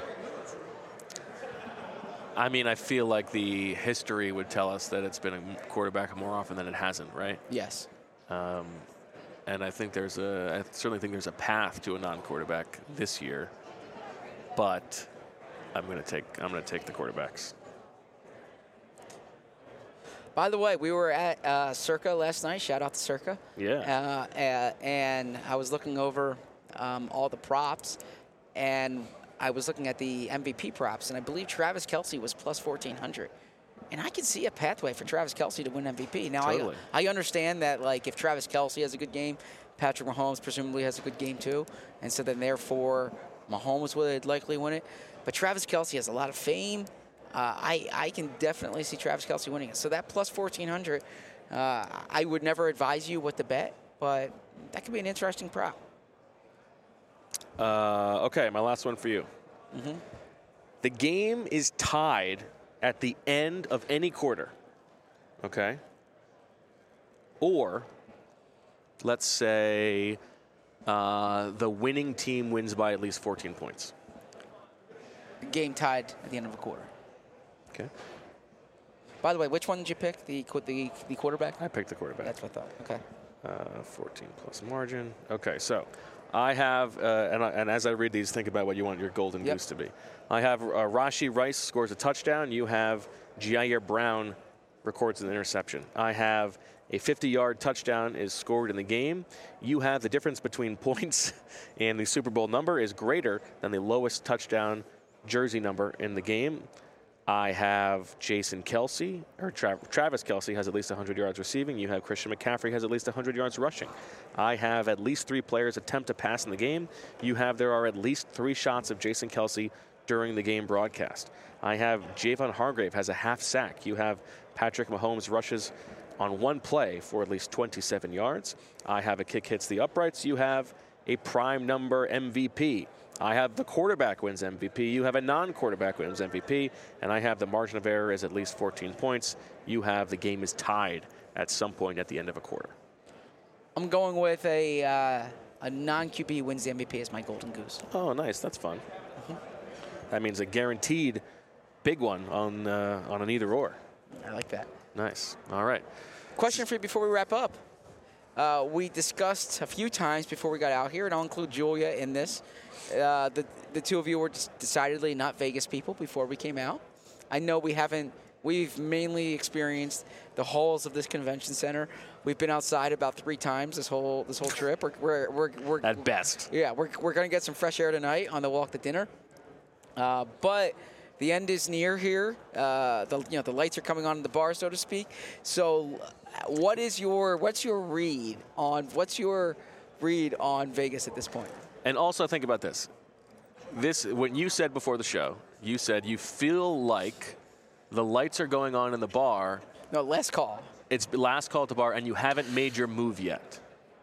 I mean, I feel like the history would tell us that it's been a quarterback more often than it hasn't, right? Yes. And I certainly think there's a path to a non-quarterback this year, but I'm going to take the quarterbacks. By the way, we were at Circa last night. Shout out to Circa. Yeah. And I was looking over all the props, and I was looking at the MVP props, and I believe Travis Kelce was plus 1,400. And I can see a pathway for Travis Kelce to win MVP. Now, Totally. I understand that, like, if Travis Kelce has a good game, Patrick Mahomes presumably has a good game too. And so then, therefore, Mahomes would likely win it. But Travis Kelce has a lot of fame. I can definitely see Travis Kelce winning it. So that plus 1,400, I would never advise you what to bet, but that could be an interesting prop. Okay, my last one for you. The game is tied at the end of any quarter, okay? Or, let's say the winning team wins by at least 14 points. Game tied at the end of a quarter. Okay. By the way, which one did you pick? The quarterback? I picked the quarterback. That's what I thought. Okay. 14 plus margin. Okay, so I have, and as I read these, think about what you want your golden goose to be. I have Rashee Rice scores a touchdown. You have Jair Brown records an interception. I have a 50-yard touchdown is scored in the game. You have the difference between points and the Super Bowl number is greater than the lowest touchdown jersey number in the game. I have Jason Kelce, or Travis Kelce has at least 100 yards receiving. You have Christian McCaffrey has at least 100 yards rushing. I have at least 3 players attempt to pass in the game. You have there are at least 3 shots of Jason Kelce during the game broadcast. I have Javon Hargrave has a half sack. You have Patrick Mahomes rushes on one play for at least 27 yards. I have a kick hits the uprights. You have a prime number MVP. I have the quarterback wins MVP. You have a non-quarterback wins MVP. And I have the margin of error is at least 14 points. You have the game is tied at some point at the end of a quarter. I'm going with a non-QB wins the MVP as my golden goose. Oh, nice. That's fun. That means a guaranteed big one on an either or. I like that. Nice. All right. Question for you before we wrap up. We discussed a few times before we got out here, and I'll include Julia in this. The two of you were decidedly not Vegas people before we came out. I know we've mainly experienced the halls of this convention center. We've been outside about 3 times this whole trip. We're at best. Yeah, we're going to get some fresh air tonight on the walk to dinner. But the end is near here. The lights are coming on in the bar, so to speak. So, what's your read on Vegas at this point? And also think about this. When you said before the show, you said you feel like the lights are going on in the bar. No, last call. It's last call at the bar, and you haven't made your move yet.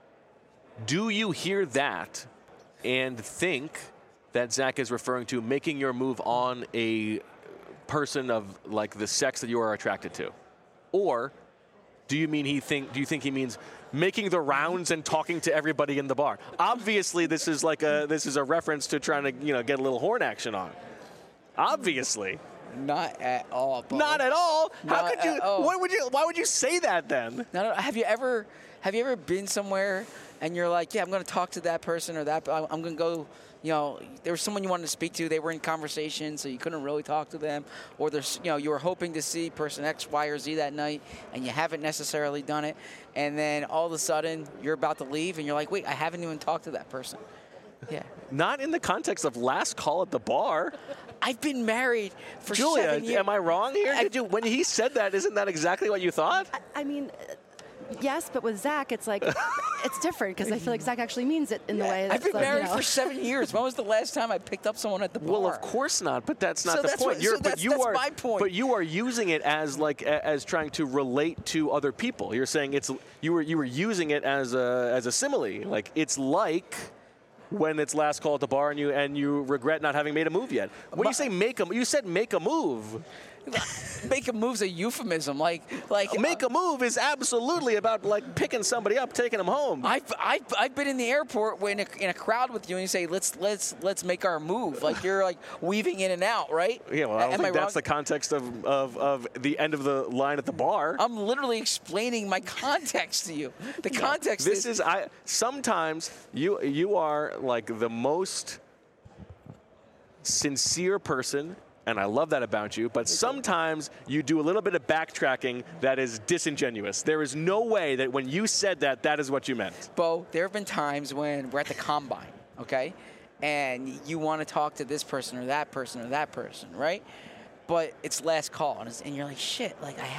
Do you hear that and think that Zach is referring to making your move on a person of like the sex that you are attracted to? Or do you think he means making the rounds and talking to everybody in the bar? Obviously, this is a reference to trying to get a little horn action on. Obviously. Not at all. Bo. Not at all. Not How could you? Why would you say that then? No. Have you ever been somewhere and you're like, yeah, I'm going to talk to that person or that. I'm going to go. There was someone you wanted to speak to. They were in conversation, so you couldn't really talk to them. Or you were hoping to see person X, Y, or Z that night, and you haven't necessarily done it. And then all of a sudden, you're about to leave, and you're like, wait, I haven't even talked to that person. Yeah. Not in the context of last call at the bar. I've been married for Julia, 7 years. am I wrong here? When he said that, isn't that exactly what you thought? I mean, yes, but with Zach, it's like, it's different because I feel like Zach actually means it in the way that's I've been married for 7 years. When was the last time I picked up someone at the bar? Well, of course not, but that's not the point. That's my point. But you are using it as as trying to relate to other people. You're saying you were using it as a simile. Like it's like when it's last call at the bar and you regret not having made a move yet. When you say you said make a move. Make a move's a euphemism. Like make a move is absolutely about like picking somebody up, taking them home. I've been in the airport when in a crowd with you and you say let's make our move. Like you're like weaving in and out, right? Yeah, well, I don't think that's the context of the end of the line at the bar. I'm literally explaining my context to you. The context is sometimes you are like the most sincere person. And I love that about you, but sometimes you do a little bit of backtracking that is disingenuous. There is no way that when you said that is what you meant. Bo, there have been times when we're at the combine, okay? And you want to talk to this person or that person or that person, right? But it's last call, and you're like, shit, like I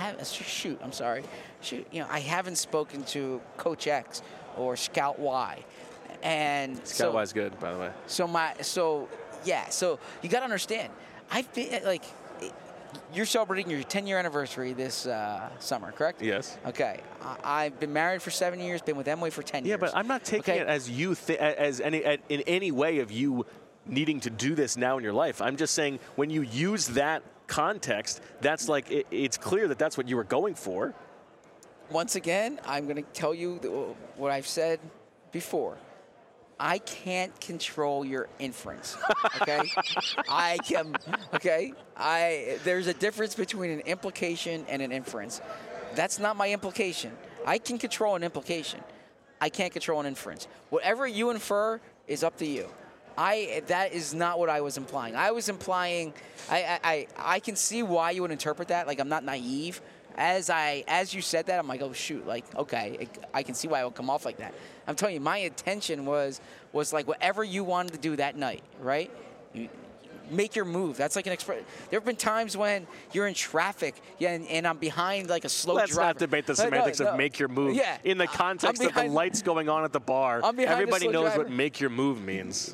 haven't spoken to Coach X or Scout Y. And Scout Y is good, by the way. So you got to understand, I've been like, you're celebrating your 10-year anniversary this summer, correct? Yes. Okay. I've been married for 7 years, been with Emily for 10 years. Yeah, but I'm not taking it as you in any way of you needing to do this now in your life. I'm just saying when you use that context, that's like it's clear that that's what you were going for. Once again, I'm going to tell you what I've said before. I can't control your inference, okay? I can, okay? There's a difference between an implication and an inference. That's not my implication. I can control an implication. I can't control an inference. Whatever you infer is up to you. That is not what I was implying. I was implying, I can see why you would interpret that. Like, I'm not naive. As you said that, I'm like, oh shoot, like, okay, I can see why it would come off like that. I'm telling you, my intention was like whatever you wanted to do that night, right? You make your move. That's like an express. There have been times when you're in traffic, and I'm behind like a slow driver. Let's not debate the semantics of make your move. Yeah. In the context of the lights going on at the bar, everybody knows what make your move means.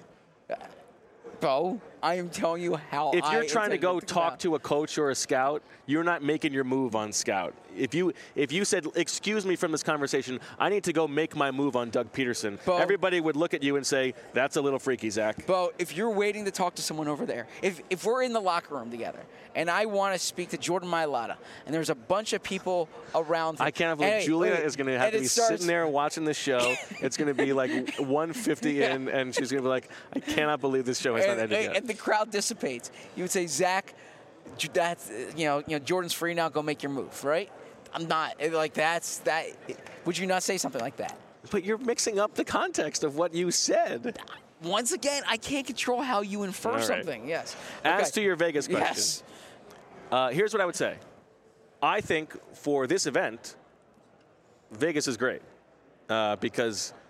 Bo, I am telling you how. If you're trying to go talk to a coach or a scout, you're not making your move on scout. If you said, excuse me from this conversation, I need to go make my move on Doug Peterson, Bo, everybody would look at you and say, that's a little freaky, Zach. Bo, if you're waiting to talk to someone over there, if we're in the locker room together and I want to speak to Jordan Mailata and there's a bunch of people around. I can't believe Julia is going to have to be sitting there watching this show. It's going to be like 1:50 in, and she's going to be like, I cannot believe this show has not ended yet. And the crowd dissipates. You would say, Zach, that's Jordan's free now. Go make your move, right? I'm not like that. Would you not say something like that? But you're mixing up the context of what you said. Once again, I can't control how you infer something. Yes. As to your Vegas question, here's what I would say. I think for this event, Vegas is great because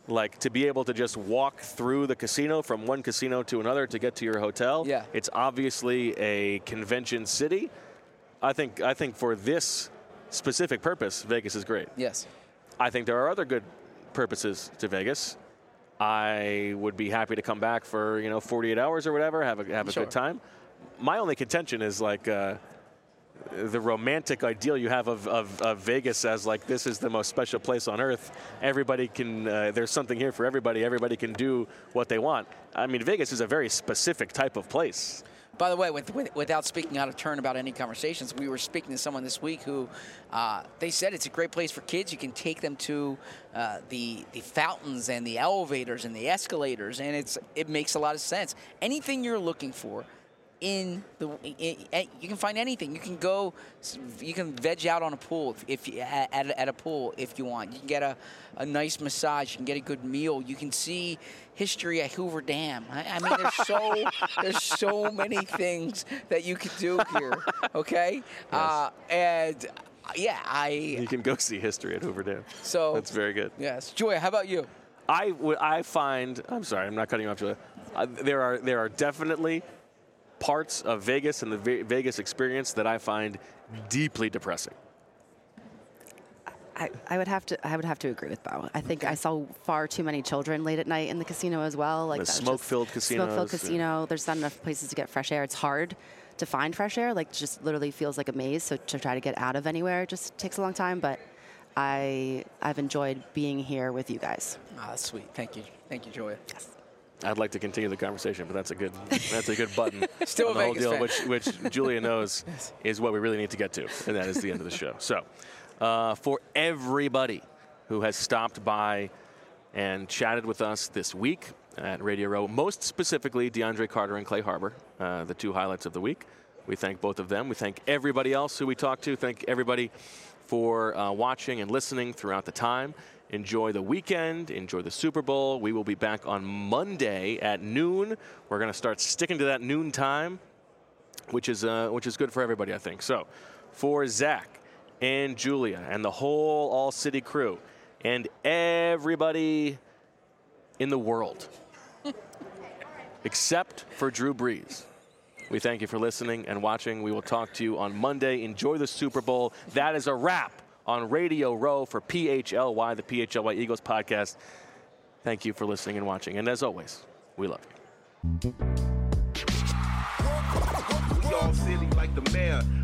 Like, to be able to just walk through the casino from one casino to another to get to your hotel. Yeah. It's obviously a convention city. I think for this specific purpose, Vegas is great. Yes. I think there are other good purposes to Vegas. I would be happy to come back for 48 hours or whatever, have a Sure. good time. My only contention is like the romantic ideal you have of Vegas as like this is the most special place on earth. Everybody can there's something here for everybody. Everybody can do what they want. I mean, Vegas is a very specific type of place. By the way, without speaking out of turn about any conversations, we were speaking to someone this week who they said it's a great place for kids. You can take them to the fountains and the elevators and the escalators, and it makes a lot of sense. Anything you're looking for you can find anything. You can veg out on a pool at a pool if you want. You can get a nice massage. You can get a good meal. You can see history at Hoover Dam. I mean, there's so many things that you could do here. Okay, yes. You can go see history at Hoover Dam. So that's very good. Yes, Joya, how about you? I find. I'm sorry, I'm not cutting you off, Julia. There are definitely parts of Vegas and the Vegas experience that I find deeply depressing. I would have to agree with Bo. I think I saw far too many children late at night in the casino as well. Like the smoke-filled casinos. Smoke-filled casino. There's not enough places to get fresh air. It's hard to find fresh air. Like, just literally feels like a maze. So to try to get out of anywhere just takes a long time. But I've enjoyed being here with you guys. That's sweet. Thank you, Joya. Yes. I'd like to continue the conversation, but that's a good button. Still on a the whole Vegas deal, fan. which Julia knows is what we really need to get to, and that is the end of the show. So, for everybody who has stopped by and chatted with us this week at Radio Row, most specifically DeAndre Carter and Clay Harbor, the two highlights of the week, we thank both of them. We thank everybody else who we talked to. Thank everybody for watching and listening throughout the time. Enjoy the weekend. Enjoy the Super Bowl. We will be back on Monday at noon. We're going to start sticking to that noon time, which is good for everybody, I think. So, for Zach and Julia and the whole All City crew and everybody in the world, except for Drew Brees, we thank you for listening and watching. We will talk to you on Monday. Enjoy the Super Bowl. That is a wrap on Radio Row for PHLY, the PHLY Eagles podcast. Thank you for listening and watching. And as always, we love you. We all silly like the mayor.